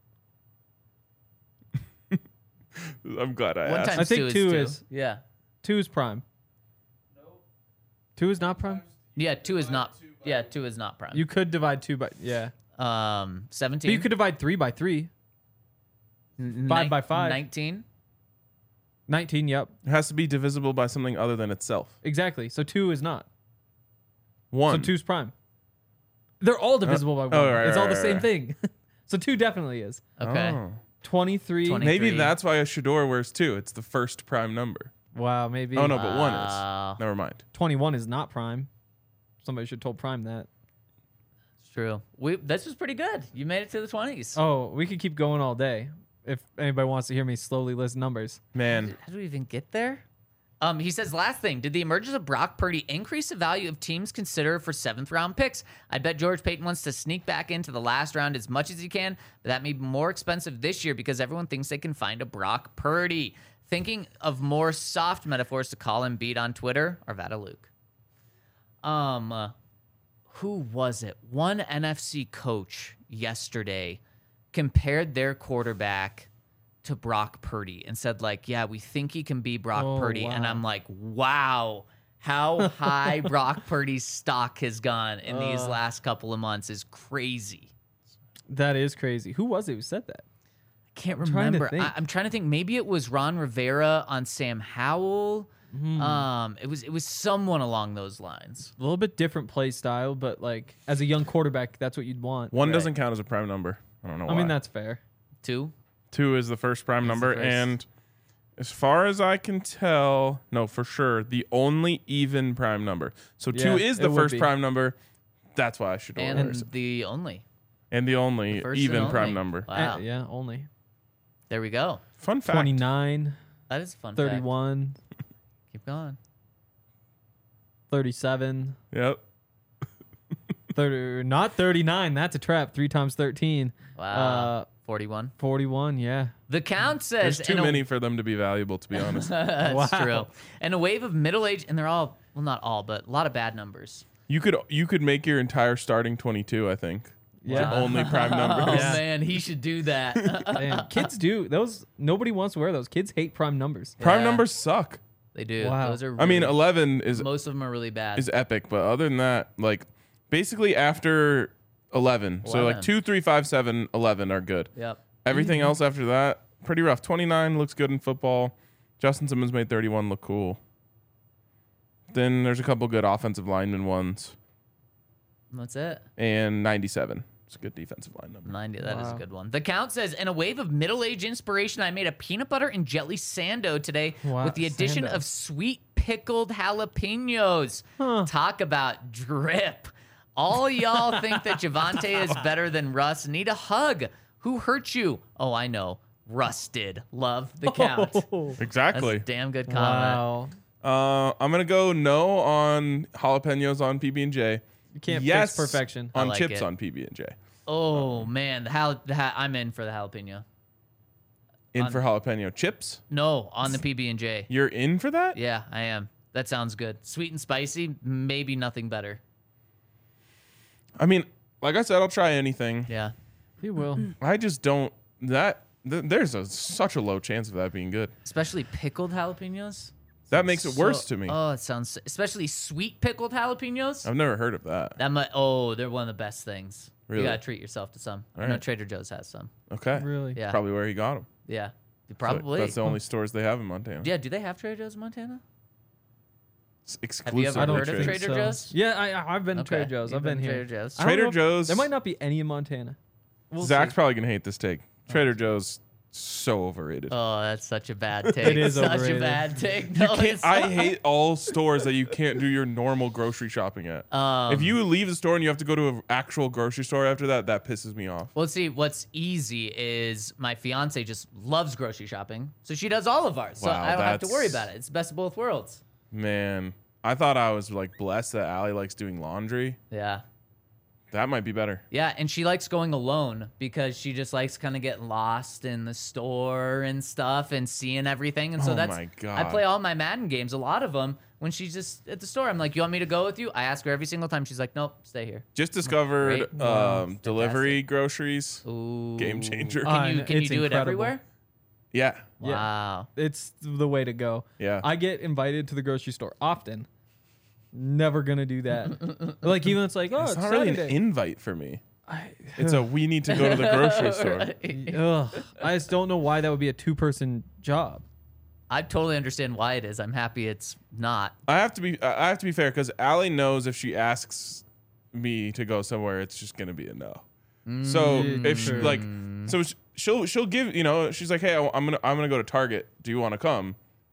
B: I'm glad I
C: One
B: asked.
C: times
D: I think
C: 2 is
D: 2
C: 2.
D: is-
C: Yeah.
D: 2 is prime. 2 is not prime?
C: Yeah, 2 is not. Yeah, 2 is not prime.
D: You could divide 2 by. Yeah.
C: 17.
D: But you could divide 3 by 3. 5 by 5.
C: 19.
D: 19, yep.
B: It has to be divisible by something other than itself.
D: Exactly. So 2 is not.
B: 1.
D: So 2's prime. They're all divisible by 1.
B: right,
D: It's all
B: right,
D: the same
B: right.
D: thing. So 2 definitely is.
C: Okay.
B: Oh.
D: 23.
C: 20.
B: Maybe
C: 23.
B: that's why a Shador wears 2. It's the first prime number.
D: Wow, maybe.
B: Oh, no, but 1
C: Wow.
B: is. Never mind.
D: 21 is not prime. Somebody should have told Prime that.
C: It's true. This was pretty good. You made it to the 20s.
D: Oh, we could keep going all day if anybody wants to hear me slowly list numbers.
B: Man.
C: How do we even get there? He says, last thing, did the emergence of Brock Purdy increase the value of teams considered for 7th round picks? I bet George Payton wants to sneak back into the last round as much as he can, but that may be more expensive this year because everyone thinks they can find a Brock Purdy. Thinking of more soft metaphors to call Embiid on Twitter, Arvada Luke. Who was it? One NFC coach yesterday compared their quarterback to Brock Purdy and said like, yeah, we think he can be Brock Purdy.
D: wow.
C: And I'm like, wow, how high Brock Purdy's stock has gone in these last couple of months is crazy.
D: That is crazy. Who was it who said that?
C: I can't
D: trying to
C: remember.
D: think.
C: I'm trying to think. Maybe it was Ron Rivera on Sam Howell. It was someone along those lines.
D: A little bit different play style, but like as a young quarterback, that's what you'd want.
B: One doesn't count as a prime number. I don't know why.
D: I mean, that's fair.
C: 2.
B: 2 is the first prime number,
C: first.
B: and as far as I can tell, no, for sure, the only even prime number. So 2
D: Yeah,
B: is
D: it
B: the
D: would
B: first
D: be.
B: prime number. That's why I should order
C: And
B: it.
C: the only.
B: And the only
C: First
B: even
C: and
B: prime
C: only.
B: number.
C: Wow.
D: Yeah, only
C: There we go.
B: Fun fact.
D: 29,
C: That is a fun.
D: 31,
C: Fact. Keep going.
D: 37,
B: Yep.
D: 30, not 39. That's a trap. 3 times 13.
C: Wow. 41.
D: 41. Yeah.
C: The count says
B: There's too
C: in a-
B: many for them to be valuable, to be honest.
C: That's
D: Wow.
C: true. And a wave of middle-aged, and they're all, well, not all, but a lot of bad numbers.
B: You could make your entire starting 22, I think.
D: Yeah.
B: Only prime
C: Oh,
B: numbers.
C: man, he should do that.
D: Damn. Kids do those. Nobody wants to wear those. Kids hate prime numbers.
B: Prime
C: Yeah.
B: numbers suck.
C: They do.
D: Wow.
C: Those are
B: I mean,
C: really-
B: 11 is
C: most of them are really bad.
B: epic, but other than that, like basically after 11, so like
C: 11.
B: 2, 3, 5, 7, 11 are good.
C: Yep.
B: Everything else after that, pretty rough. 29 looks good in football. Justin Simmons made 31 look cool. Then there's a couple good offensive lineman ones,
C: That's it.
B: and 97. It's a good defensive line number.
C: 90. That is a
D: Wow.
C: good one. The count says, in a wave of middle-aged inspiration, I made a peanut butter and jelly sando today
D: Wow,
C: with the addition
D: sando.
C: of sweet pickled jalapenos. Talk about drip. All y'all think that Javante is better than Russ. Need a hug. Who hurt you? Oh, I know. Russ did. Love the count. That's
B: Exactly.
C: a damn good comment.
D: Wow.
B: I'm gonna go no on jalapenos on PB&J.
D: You can't
B: Yes
D: fix perfection.
B: on
C: I like
B: chips
C: it.
B: on PB&J.
C: Oh, man. I'm in for the jalapeno.
B: In for jalapeno chips.
C: No, on the PB&J.
B: You're in for that?
C: Yeah, I am. That sounds good. Sweet and spicy, maybe nothing better.
B: I mean, like I said, I'll try anything.
C: Yeah.
D: You will.
B: I just don't. There's such a low chance of that being good.
C: Especially pickled jalapenos.
B: That makes it worse
C: So-
B: to me.
C: Oh, it sounds especially sweet pickled jalapenos.
B: I've never heard of that.
C: They're one of the best things.
B: Really?
C: You gotta treat yourself to some. I
B: All
C: know
B: right.
C: Trader Joe's has some.
B: Okay.
D: Really?
C: Yeah.
B: Probably where he got them.
C: Yeah. Probably.
B: That's the only stores they have in Montana.
C: Yeah. Do they have Trader Joe's in Montana?
B: It's
C: Have you
B: exclusively
C: ever
D: I don't
C: heard of
D: think
C: Trader
D: so.
C: Joe's?
D: Yeah, I've been to
C: Okay.
D: Trader Joe's.
C: You've
D: I've been
C: to
D: here.
C: Trader Joe's.
D: I don't
B: Trader
D: know if-
B: Joe's-
D: There might not be any in Montana. We'll
B: Zach's
D: see.
B: probably gonna hate this take. Trader Joe's so overrated.
C: Oh, that's such a bad take.
D: is
C: such
D: overrated.
C: a bad take.
B: You
C: No,
B: can't,
C: it's
B: I
C: not.
B: hate all stores that you can't do your normal grocery shopping at. If you leave the store and you have to go to an actual grocery store after that, that pisses me off.
C: Well, see, what's easy is my fiance just loves grocery shopping, so she does all of ours. So
B: Wow,
C: I don't have to worry
B: that's-
C: about it. It's the best of both worlds.
B: Man, I thought I was like blessed that Allie likes doing laundry.
C: Yeah.
B: That might be better.
C: Yeah, and she likes going alone because she just likes kind of getting lost in the store and stuff and seeing everything. And so
B: Oh
C: that's
B: my
C: I
B: God.
C: play all my Madden games, a lot of them, when she's just at the store. I'm like, "You want me to go with you?" I ask her every single time. She's like, "Nope, stay here."
B: Just discovered
C: Great.
B: delivery groceries.
C: Ooh.
B: Game changer.
C: Can you
D: It's
C: do it
D: incredible.
C: everywhere?
B: Yeah.
D: Yeah.
C: Wow.
D: It's the way to go.
B: Yeah.
D: I get invited to the grocery store often. Never gonna do that. Like even it's like, oh,
B: It's
D: it's
B: not really an
D: Saturday.
B: invite for me. It's a we need to go to the grocery store.
D: Ugh. I just don't know why that would be a 2-person job.
C: I totally understand why it is. I'm happy it's not.
B: I have to be fair because Allie knows if she asks me to go somewhere, it's just gonna be a no. So if she,
D: true.
B: like, so she'll give she's like, hey, I'm gonna go to Target. Do you want to come?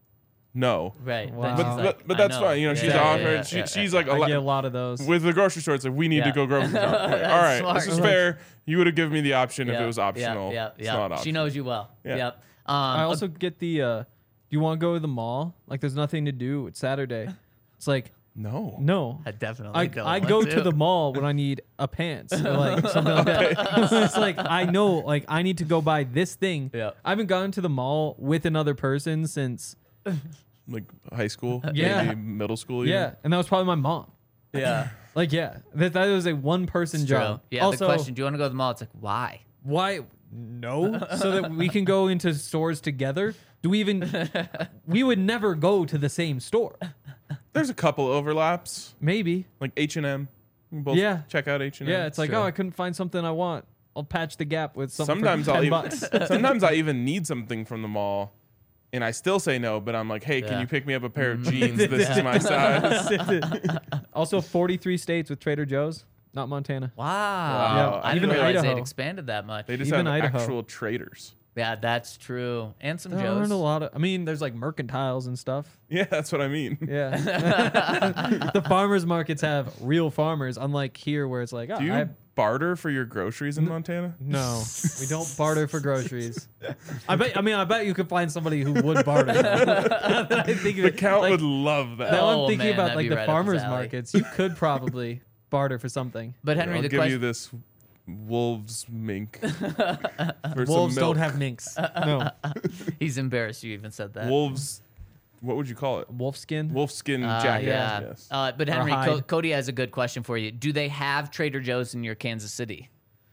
B: No.
C: Right.
D: Wow.
C: Then
B: But
C: she's
B: but,
C: like,
B: but
C: I
B: that's
C: know.
B: fine. You know, she's
C: Yeah,
B: offered.
C: yeah, yeah,
B: she's
C: yeah.
B: like
D: I get a lot of those.
B: with the grocery store. It's like we need to
C: Yeah.
B: go grocery shopping. All right,
C: Smart.
B: this is fair. You would have given me the option if
C: Yeah,
B: it was optional.
C: Yeah,
B: It's not optional.
C: She knows you well.
B: Yeah.
C: Yep.
D: I also get the do you want to go to the mall? Like there's nothing to do. It's Saturday. It's like,
B: No.
D: no.
C: I definitely
D: I
C: don't
D: go
C: want
D: to the mall when I need a pants or like something like that. It's like I know like I need to go buy this thing.
C: Yeah.
D: I haven't gone to the mall with another person since
B: Like high school.
D: Yeah.
B: Maybe middle school. Even.
D: yeah, and that was probably my mom.
C: Yeah.
D: Like yeah, that was a 1-person
C: True.
D: job.
C: Yeah.
D: Also,
C: the question: do you want to go to the mall? It's like, why?
D: why No, so that we can go into stores together. Do we even? We would never go to the same store.
B: There's a couple overlaps,
D: Maybe.
B: like H&M. We both
D: Yeah.
B: check out H&M.
D: Yeah, it's like,
C: True.
D: oh, I couldn't find something I want. I'll patch the gap with something
B: sometimes
D: for
B: I'll
D: $10.
B: sometimes I even need something from the mall, and I still say no. But I'm like, hey, can
C: Yeah.
B: you pick me up a pair of jeans? This is my size.
D: Also, 43 states with Trader Joe's, not Montana.
C: Wow.
B: Wow.
C: I didn't
D: Even
C: realize
D: Idaho.
C: they'd expanded that much.
B: They just
D: Even
B: have
D: Idaho.
B: actual traders.
C: Yeah, that's true. And some
D: There aren't
C: Joes.
D: a lot of. I mean, there's like mercantiles and stuff.
B: Yeah, that's what I mean.
D: Yeah. The farmers markets have real farmers, unlike here where it's like, oh,
B: Do you barter for your groceries in Montana?
D: no, we don't barter for groceries. I bet you could find somebody who would barter. I think
B: The count would love that.
D: Now
C: Oh,
D: I'm thinking
C: man,
D: about
C: that'd
D: like
C: be
D: the
C: right up his
D: farmers
C: alley.
D: markets. You could probably barter for something.
C: But Henry,
B: I'll
C: the
B: give you
C: question.
B: this wolf's mink. For
D: Wolves
B: some milk.
D: don't have minks. No,
C: He's embarrassed you even said that.
B: wolves. What would you call it?
D: wolf skin.
B: Wolfskin jacket.
C: Yeah.
B: Yes.
C: But Henry,
D: hide.
C: Cody has a good question for you. Do they have Trader Joe's in your Kansas City?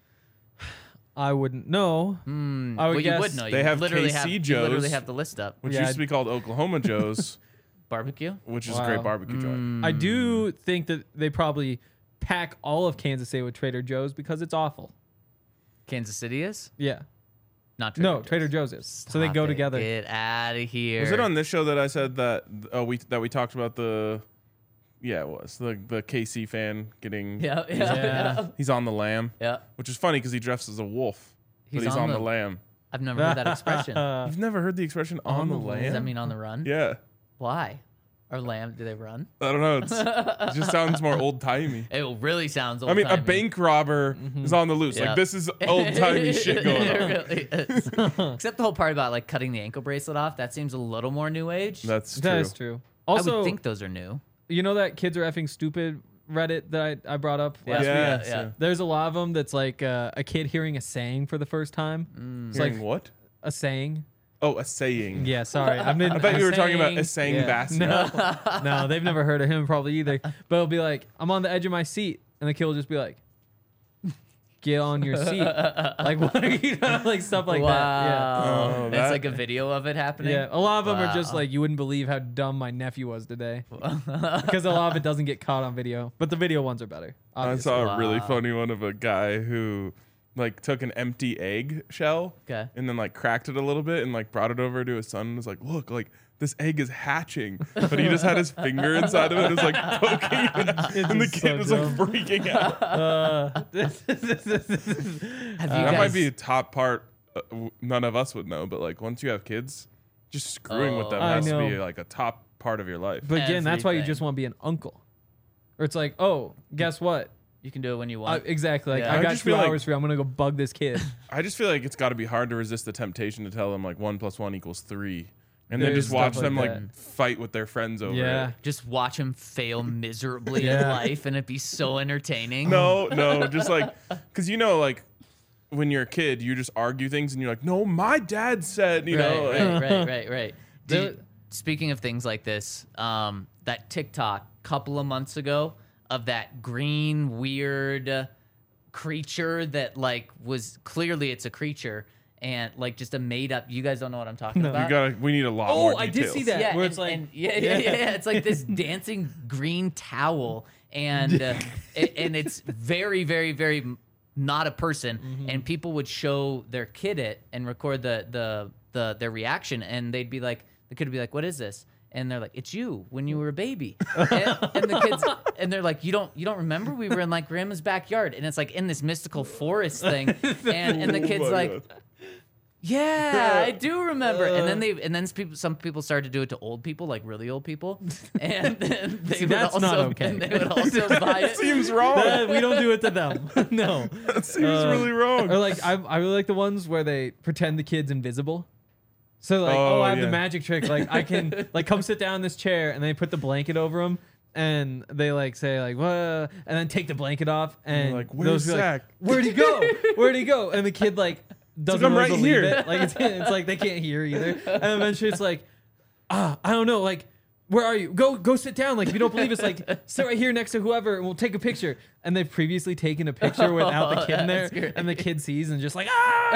D: I wouldn't know. I would
C: Well, you
D: guess
C: would know.
B: They
C: You
B: have
C: literally
B: KC
C: You literally
B: Joe's.
C: have the list up.
B: Which
D: Yeah,
B: used to be called Oklahoma Joe's,
C: Barbecue?
B: which is a
D: Wow.
B: great barbecue joint.
D: I do think that they probably pack all of Kansas City with Trader Joe's because it's awful.
C: Kansas City is?
D: Yeah.
C: Not Trader
D: No,
C: Joe's.
D: Trader Joe's is. So they
C: Stop
D: go
C: it.
D: together.
C: Get out of here.
B: Was it on this show that I said that we talked about the? Yeah, it was the KC fan getting.
C: Yeah, yeah,
D: Yeah.
C: yeah.
B: He's on the lamb,
C: Yeah.
B: which is funny because he dresses as a wolf, but
C: He's
B: he's
C: on
B: on the
C: the-
B: lamb.
C: I've never heard that expression. Does
B: You've never heard the expression on the lamb?
C: that mean on the run?
B: Yeah,
C: Why? Or lamb, do they run?
B: I don't know. It just sounds more old timey.
C: It really sounds old.
B: I mean, a bank robber is on the loose.
C: Yeah.
B: Like this is old timey shit going on.
C: It really is. Except the whole part about like cutting the ankle bracelet off. That seems a little more new age.
B: That's true.
D: That is true.
C: I
D: Also,
C: would think those are new.
D: you know that kids are effing stupid Reddit that I brought up last week?
B: Yes,
C: yeah.
D: There's a lot of them that's like a kid hearing a saying for the first time. It's
B: Hearing
D: like
B: what?
D: a saying.
B: Oh, a saying.
D: Yeah, sorry.
B: I thought you were talking about Essang
D: Yeah.
B: Bassett.
D: No, they've never heard of him probably either. But it'll be like, I'm on the edge of my seat. And the kid will just be like, get on your seat. Like, what are you doing? Like, stuff like that.
C: Wow.
B: Oh,
C: It's
B: that-
C: like a video of it
D: Yeah.
C: happening.
D: Yeah. A lot of them are just
C: Wow.
D: like, you wouldn't believe how dumb my nephew was today. Because a lot of it doesn't get caught on video. But the video ones are better.
B: I
D: Obviously.
B: saw a really
C: Wow.
B: funny one of a guy who like took an empty egg shell
C: Okay.
B: and then like cracked it a little bit and like brought it over to his son and was like, look, like this egg is hatching. But he just had his finger inside of it and was like poking it. And the
D: is
B: kid
D: so
B: was
D: dumb.
B: like freaking out.
C: Have you
B: That
C: guys,
B: might be a top part none of us would know, but like once you have kids, just screwing with them
C: Oh.
D: I
B: has to be
D: know.
B: like a top part of your life.
D: But again, that's why you
C: Everything.
D: just want to be an uncle. Or it's like, oh, guess what?
C: you can do it when you want.
D: Exactly. Like,
C: Yeah.
D: I
B: I
D: got
B: just
D: 2
B: feel like-
D: hours for you. I'm going to go bug this kid.
B: I just feel like it's got to be hard to resist the temptation to tell them like 1 + 1 = 3. And then
D: There's
B: just watch
D: stuff
B: them
D: like
B: like fight with their friends over
D: Yeah.
B: it.
C: Just watch him fail miserably in
D: Yeah.
C: life, and it'd be so entertaining.
B: No, just like, because like when you're a kid, you just argue things and you're like, no, my dad said, you know. like-
C: Right.
D: The-
C: Speaking of things like this, that TikTok couple of months ago of that green weird creature that like was clearly it's a creature and like just a made up. You guys don't know what I'm talking about.
B: we need a lot more
D: Oh, I
B: details.
D: did see that.
C: Yeah,
D: where
C: and,
D: it's like,
C: yeah. It's like this dancing green towel, and and it's very, very, very not a person. And people would show their kid it and record their reaction, and they'd be like, the kid would be like, "What is this?" And they're like, "It's you when you were a baby." and the kids, and they're like, "You don't remember? We were in like grandma's backyard, and it's like in this mystical forest thing." And the kid's
B: Oh my
C: like.
B: God.
C: Yeah, I do remember. And then some people started to do it to old people, like really old people, and then they
D: See,
C: would
D: that's
C: also
D: not okay.
C: and they would also buy it.
B: Seems wrong.
D: we don't do it to them. No.
B: That seems really wrong.
D: Or like, I really like the ones where they pretend the kid's invisible. So like,
B: Oh,
D: I have
B: yeah.
D: the magic trick. Like I can like come sit down in this chair, and they put the blanket over him, and they like say like what, and then take the blanket off, and
B: like,
D: those
B: "Where's
D: be like,
B: Zach?"
D: Where'd he go? Where'd he go? And the kid like doesn't
B: I'm
D: really
B: right
D: believe
B: here.
D: it. Like it's like they can't hear either. And eventually it's like, I don't know. Like where are you? Go sit down. Like, if you don't believe us, like, sit right here next to whoever and we'll take a picture. And they've previously taken a picture without the kid in there. And the kid sees and just like,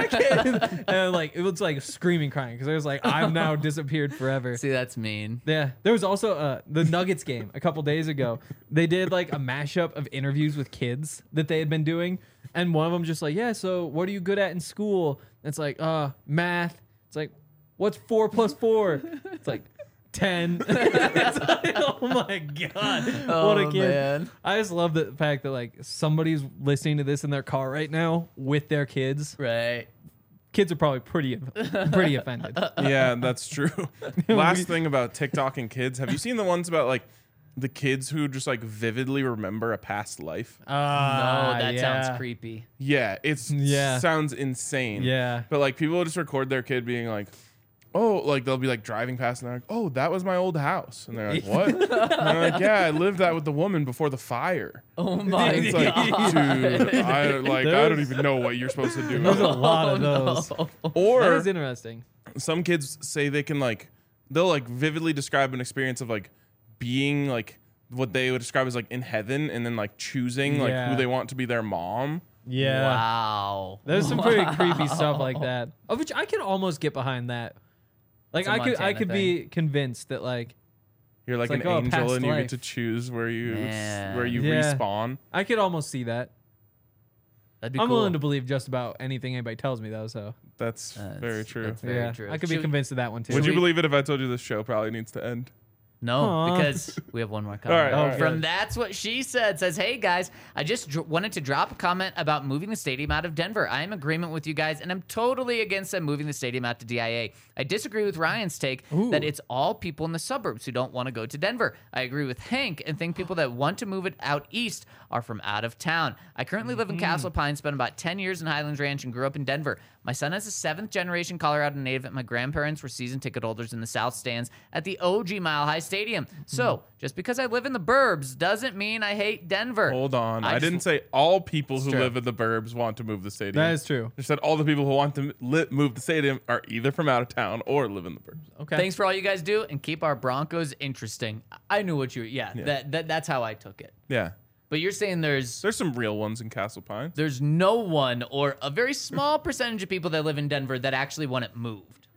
D: kid. And like, it was like screaming, crying. Because it was like, I'm now disappeared forever.
C: See, that's mean.
D: Yeah. There was also the Nuggets game a couple days ago. They did like a mashup of interviews with kids that they had been doing. And one of them just like, yeah, so what are you good at in school? And it's like, math. It's like, what's 4 plus 4? It's like, 10. It's like, oh my god, what a kid.
C: Man.
D: I just love the fact that like somebody's listening to this in their car right now with their kids.
C: Right.
D: Kids are probably pretty offended.
B: Yeah, that's true. Last thing about TikTok and kids, have you seen the ones about like the kids who just like vividly remember a past life?
C: No, that
D: yeah.
C: sounds creepy.
B: Yeah,
D: Yeah.
B: sounds insane.
D: Yeah.
B: But like people will just record their kid being like, oh, like they'll be like driving past and they're like, oh, that was my old house. And they're like, what? And they're like, yeah, I lived that with the woman before the fire.
C: Oh my
B: It's
C: god.
B: like, dude, I don't even know what you're supposed to do.
D: There's a lot of those. That
B: Or
D: is interesting.
B: some kids say they can like, they'll like vividly describe an experience of like being like what they would describe as like in heaven and then like choosing like
D: Yeah.
B: who they want to be their mom.
D: Yeah.
C: Wow.
D: There's some pretty creepy stuff like that. Of which I can almost get behind that. Like
C: It's a
D: I
C: Montana
D: could be convinced that like
B: You're like
D: It's
B: an
D: like, oh,
B: angel
D: past
B: and you
D: life.
B: get to choose where you
C: Man.
D: Yeah.
B: respawn.
D: I could almost see that.
C: That'd be
D: I'm
C: cool.
D: willing to believe just about anything anybody tells me though. So
B: That's very true.
C: That's very
D: yeah,
C: true.
D: I could be
C: Should-
D: convinced of that one too.
B: Would you
C: we-
B: believe it if I told you this show probably needs to end?
C: No,
D: Aw.
C: because we have one more comment.
B: All right, all right.
C: From That's What She Said says, hey guys, I just wanted to drop a comment about moving the stadium out of Denver. I am in agreement with you guys, and I'm totally against them moving the stadium out to DIA. I disagree with Ryan's take that it's all people in the suburbs who don't want to go to Denver. I agree with Hank and think people that want to move it out east are from out of town. I currently live in Castle Pines, spent about 10 years in Highlands Ranch, and grew up in Denver. My son is a 7th generation Colorado native, and my grandparents were season ticket holders in the South Stands at the OG Mile High Stadium. So, just because I live in the burbs doesn't mean I hate Denver.
B: Hold on. I
C: just-
B: didn't say all people who
C: true.
B: live in the burbs want to move the stadium.
D: That is true.
B: I said all the people who want to move the stadium are either from out of town or live in the burbs.
D: Okay.
C: Thanks for all you guys do, and keep our Broncos interesting. I knew what you. Yeah. That's how I took it.
B: Yeah.
C: But you're saying there's
B: There's some real ones in Castle Pines.
C: no one or a very small percentage of people that live in Denver that actually want it moved.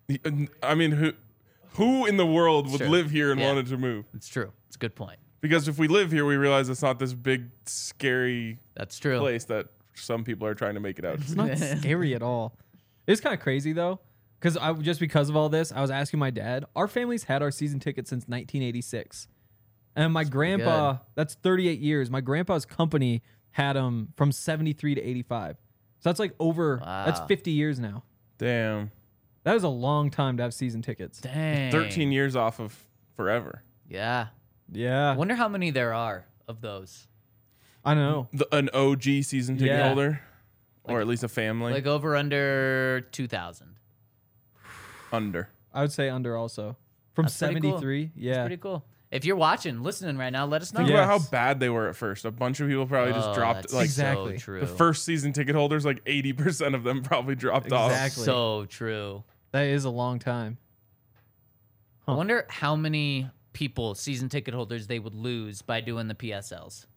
B: I mean, who in the world would
C: Sure.
B: live here and
C: Yeah.
B: wanted to move?
C: It's true. It's a good point.
B: Because if we live here, we realize it's not this big, scary
C: That's true.
B: place that some people are trying to make it out.
D: It's not scary at all. It's kind of crazy though, because because of all this, I was asking my dad. Our family's had our season ticket since 1986, and my grandpa. That's 38 years. My grandpa's company had them from 73 to 85. So that's like over. That's
C: Wow.
D: 50 years now.
B: Damn.
D: That is a long time to have season tickets.
C: Dang.
B: 13 years off of forever.
C: Yeah.
D: Yeah,
C: I wonder how many there are of those.
D: I know.
B: An OG season ticket
D: Yeah.
B: holder, or at least a family
C: Like over under 2,000.
B: under.
D: I would say under also from
C: That's pretty cool.
D: 73.
C: That's
D: Yeah,
C: pretty cool. If you're watching, listening right now, let us know.
B: Think
D: Yeah.
B: about how
D: Yes.
B: bad they were at first. A bunch of people probably just dropped.
C: That's
B: Like
D: Exactly.
C: So true.
B: the first season ticket holders, like 80% of them probably dropped off.
D: Exactly.
C: So true.
D: that is a long time.
C: I wonder how many people, season ticket holders, they would lose by doing the PSLs.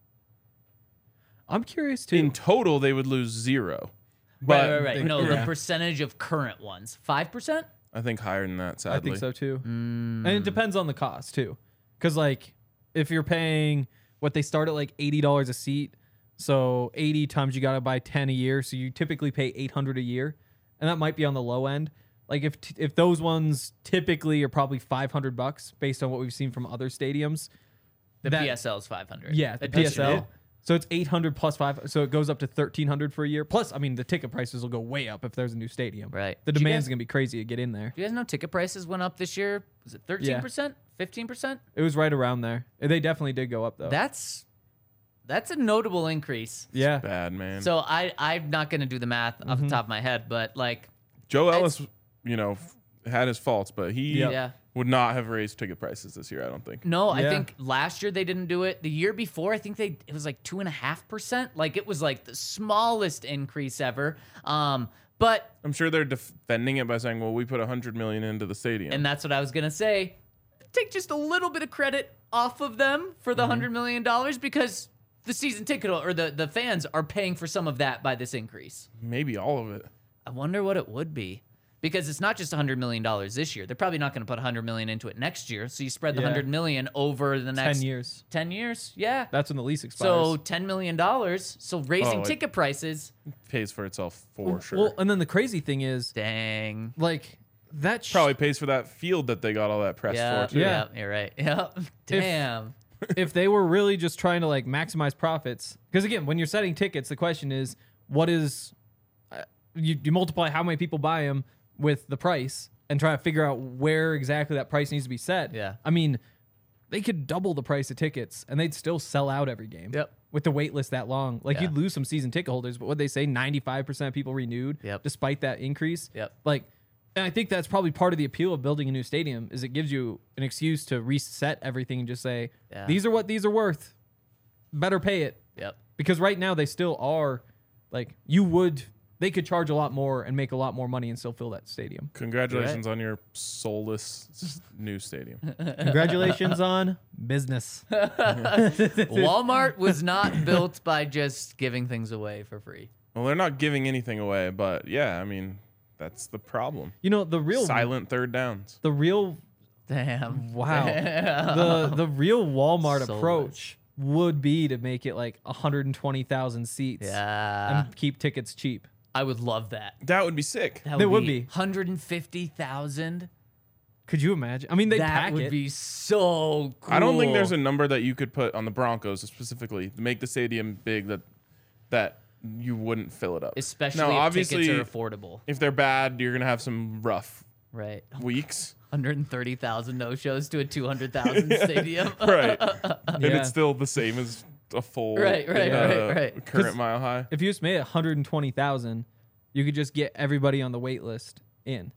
D: I'm curious too.
B: In total, they would lose 0. But
C: Right. No,
D: yeah.
C: the percentage of current ones. 5%?
B: I think higher than that, sadly.
D: I think so too. And it depends on the cost too. Because like if you're paying what they start at like $80 a seat, so 80 times you got to buy 10 a year, so you typically pay $800 a year, and that might be on the low end. Like if those ones typically are probably $500 based on what we've seen from other stadiums.
C: The
D: That-
C: PSL is 500.
D: Yeah, the
C: That's
D: PSL.
C: it.
D: So it's 800 plus 5, so it goes up to 1,300 for a year. Plus, I mean, the ticket prices will go way up if there's a new stadium.
C: Right.
D: The
C: Did you
D: demand's
C: guys-
D: gonna be crazy to get in there.
C: Do you guys know ticket prices went up this year? Was it 13%? 15%?
D: It was right around there. They definitely did go up though.
C: That's a notable increase.
D: yeah.
B: Bad, man.
C: So I'm not going to do the math off the top of my head, but like,
B: Joe Ellis, had his faults, but he
D: Yep.
C: yeah.
B: would not have raised ticket prices this year, I don't think.
C: No, I
D: Yeah.
C: think last year they didn't do it. The year before, I think it was like 2.5%. Like it was like the smallest increase ever. But
B: I'm sure they're defending it by saying, well, we put $100 million into the stadium.
C: and that's what I was gonna say. take just a little bit of credit off of them for the $100 million because the season ticket or the fans are paying for some of that by this increase.
B: Maybe all of it.
C: I wonder what it would be. Because it's not just $100 million this year. They're probably not going to put $100 million into it next year. So you spread the $100 million over the next
D: 10 years.
C: 10 years, yeah.
D: That's when the lease expires.
C: So $10 million. So raising ticket prices.
B: Pays for itself for sure.
D: Well, and then the crazy thing is,
C: Dang.
D: like, that
B: Probably pays for that field that they got all that press
C: Yeah,
B: for too.
C: yeah, you're right. Yeah. Damn.
D: if they were really just trying to like maximize profits, because again, when you're setting tickets, the question is, what is you multiply how many people buy them with the price and try to figure out where exactly that price needs to be set.
C: Yeah.
D: I mean, they could double the price of tickets and they'd still sell out every game.
C: Yep.
D: With the wait list that long. Like
C: Yeah.
D: you'd lose some season ticket holders, but what they say, 95% of people renewed despite that increase.
C: Yep.
D: Like, and I think that's probably part of the appeal of building a new stadium is it gives you an excuse to reset everything and just say, these are what these are worth. Better pay it.
C: Yep.
D: Because right now they still are like they could charge a lot more and make a lot more money and still fill that stadium.
B: Congratulations on your soulless new stadium.
D: Congratulations on business.
C: Walmart was not built by just giving things away for free.
B: Well, they're not giving anything away, but yeah, I mean, that's the problem.
D: You know, the real
B: Silent third downs.
D: The real
C: Damn.
D: wow. The real Walmart
C: So
D: approach would be to make it like 120,000 seats
C: Yeah.
D: and keep tickets cheap.
C: I would love that.
B: That would be sick.
C: That
D: They would be.
C: 150,000.
D: Could you imagine? I mean, they
C: That
D: pack
C: would
D: it.
C: be so cool.
B: I don't think there's a number that you could put on the Broncos specifically to make the stadium big that you wouldn't fill it up.
C: Especially
B: now,
C: if
B: obviously,
C: tickets are affordable.
B: if they're bad, you're gonna have some rough
C: Right.
B: weeks.
C: 130,000 no-shows to a 200,000 stadium.
B: Right. And
D: Yeah.
B: it's still the same as a full
C: Right.
B: current
D: 'Cause
B: mile high.
D: If you just made it 120,000, you could just get everybody on the wait list in.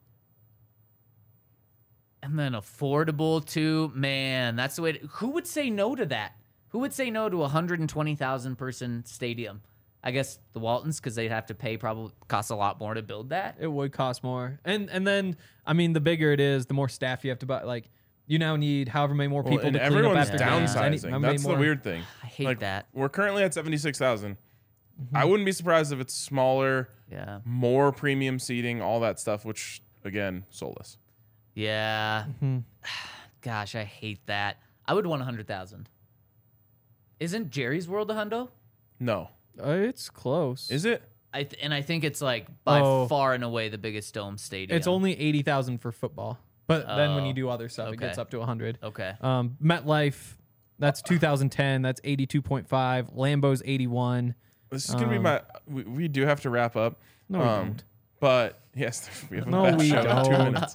C: And then affordable too. Man, that's the way. Who would say no to that? Who would say no to a 120,000 person stadium? I guess the Waltons, because they'd have to pay, probably costs a lot more to build that.
D: It would cost more. And then, I mean, the bigger it is, the more staff you have to buy. Like, you now need however many more people
B: Well, and
D: to clean up
B: everyone's
D: after games.
B: downsizing.
D: How many
B: That's
D: more-
B: the weird thing.
C: I hate that.
B: We're currently at 76,000. I wouldn't be surprised if it's smaller,
C: Yeah.
B: more premium seating, all that stuff, which, again, soulless.
C: Yeah. Gosh, I hate that. I would want 100,000. Isn't Jerry's World a hundo?
B: No.
D: It's close.
B: Is it?
C: And I think it's like by
D: Oh.
C: far and away the biggest dome stadium.
D: It's only 80,000 for football. But then when
C: Oh,
D: you do other stuff, it
C: okay.
D: gets up to 100.
C: Okay.
D: MetLife, that's 2010. That's 82.5. Lambeau's 81.
B: This is going to be my. We do have to wrap up.
D: No, we don't.
B: But, yes, we have a
D: No,
B: bad
D: we
B: show in 2
D: don't.
B: minutes.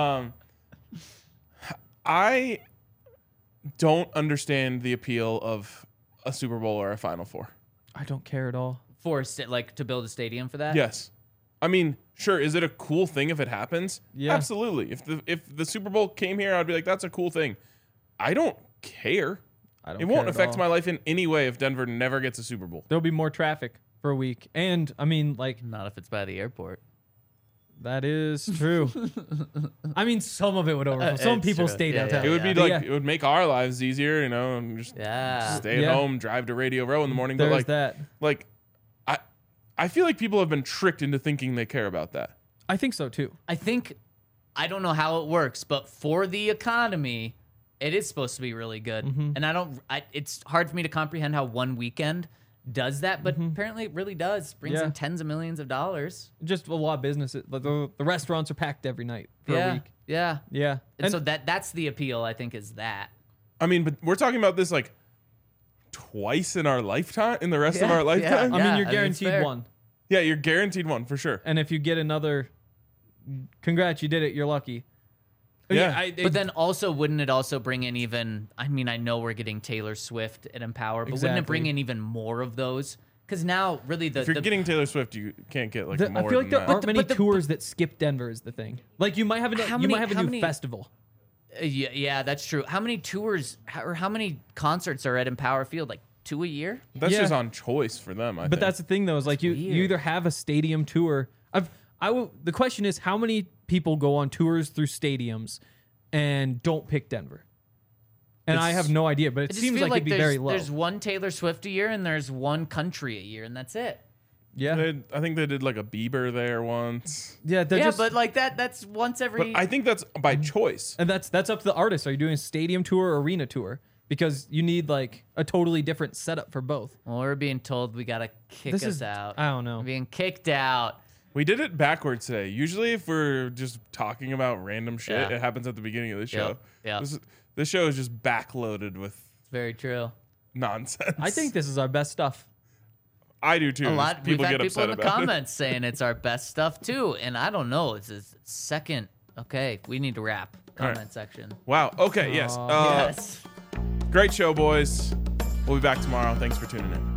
B: I don't understand the appeal of a Super Bowl or a Final Four.
D: I don't care at all.
C: Like to build a stadium for that?
B: Yes. I mean, sure, is it a cool thing if it happens?
D: Yeah.
B: Absolutely. If the Super Bowl came here, I'd be like, that's a cool thing. I don't care.
D: I don't
B: It won't
D: care at
B: affect
D: all.
B: my life in any way if Denver never gets a Super Bowl.
D: There'll be more traffic for a week. And, I mean, like,
C: Not if it's by the airport.
D: that is true. I mean, some of it would overflow. Some
C: It's
D: people
C: true.
D: stay
C: Yeah,
D: downtown.
B: It would be
D: But
B: like
D: yeah,
B: it would make our lives easier, you know, and just
C: Yeah.
B: stay at
D: Yeah.
B: home, drive to Radio Row in the morning.
D: there's
B: But like
D: that.
B: I feel like people have been tricked into thinking they care about that.
D: I think so, too.
C: I don't know how it works, but for the economy, it is supposed to be really good. And it's hard for me to comprehend how one weekend does that, but apparently it really does. Brings
D: Yeah.
C: in tens of millions of dollars.
D: Just a lot of businesses. The restaurants are packed every night for a week.
C: Yeah.
D: Yeah.
C: And so that's the appeal, I think, is that.
B: I mean, but we're talking about this like twice in our lifetime, in the rest of our lifetime.
D: I
C: Yeah,
D: mean, you're
C: it's
D: guaranteed
C: fair.
D: one.
B: Yeah, you're guaranteed one for sure.
D: And if you get another, congrats, you did it. You're lucky.
B: Yeah.
C: But then also, wouldn't it also bring in even, I mean, I know we're getting Taylor Swift at Empower, but wouldn't it bring
D: Exactly.
C: in even more of those? Because now, really,
B: If you're getting Taylor Swift, you can't get like more
D: I feel like there
B: than
D: aren't
B: that.
D: many
C: But the-
D: tours that skip Denver is the thing. Like you might have
C: How
D: a
C: many-
D: new festival.
C: yeah, that's true. How many tours or how many concerts are at Empower Field? Like 2 a year?
B: That's
D: Yeah.
B: just on choice for them. I
D: But
B: think.
D: that's the thing though, is like you
C: weird.
D: either have a stadium tour. The question is how many people go on tours through stadiums and don't pick Denver. And I have no idea, but it
C: I just
D: seems
C: feel
D: like it'd be very low.
C: There's one Taylor Swift a year and there's one country a year, and that's it.
D: Yeah.
B: I think they did like a Bieber there once.
D: Yeah,
C: But like that's once every.
B: But I think that's by choice.
D: and that's up to the artist. Are you doing a stadium tour or arena tour? Because you need like a totally different setup for both.
C: Well, we're being told we gotta kick us out.
D: I don't know.
C: We're being kicked out.
B: We did it backwards today. Usually, if we're just talking about random shit,
C: Yeah.
B: it happens at the beginning of the show.
C: Yep.
B: This show is just backloaded with
C: Very true.
B: nonsense.
D: I think this is our best stuff.
B: I do too.
C: A lot.
B: People
C: We've had
B: get
C: people in
B: upset
C: the
B: about
C: comments saying it's our best stuff too, and I don't know. It's a second. Okay, we need to wrap. Comment
B: right.
C: section.
B: Wow. Okay. Yes.
C: Yes.
B: Great show, boys. We'll be back tomorrow. Thanks for tuning in.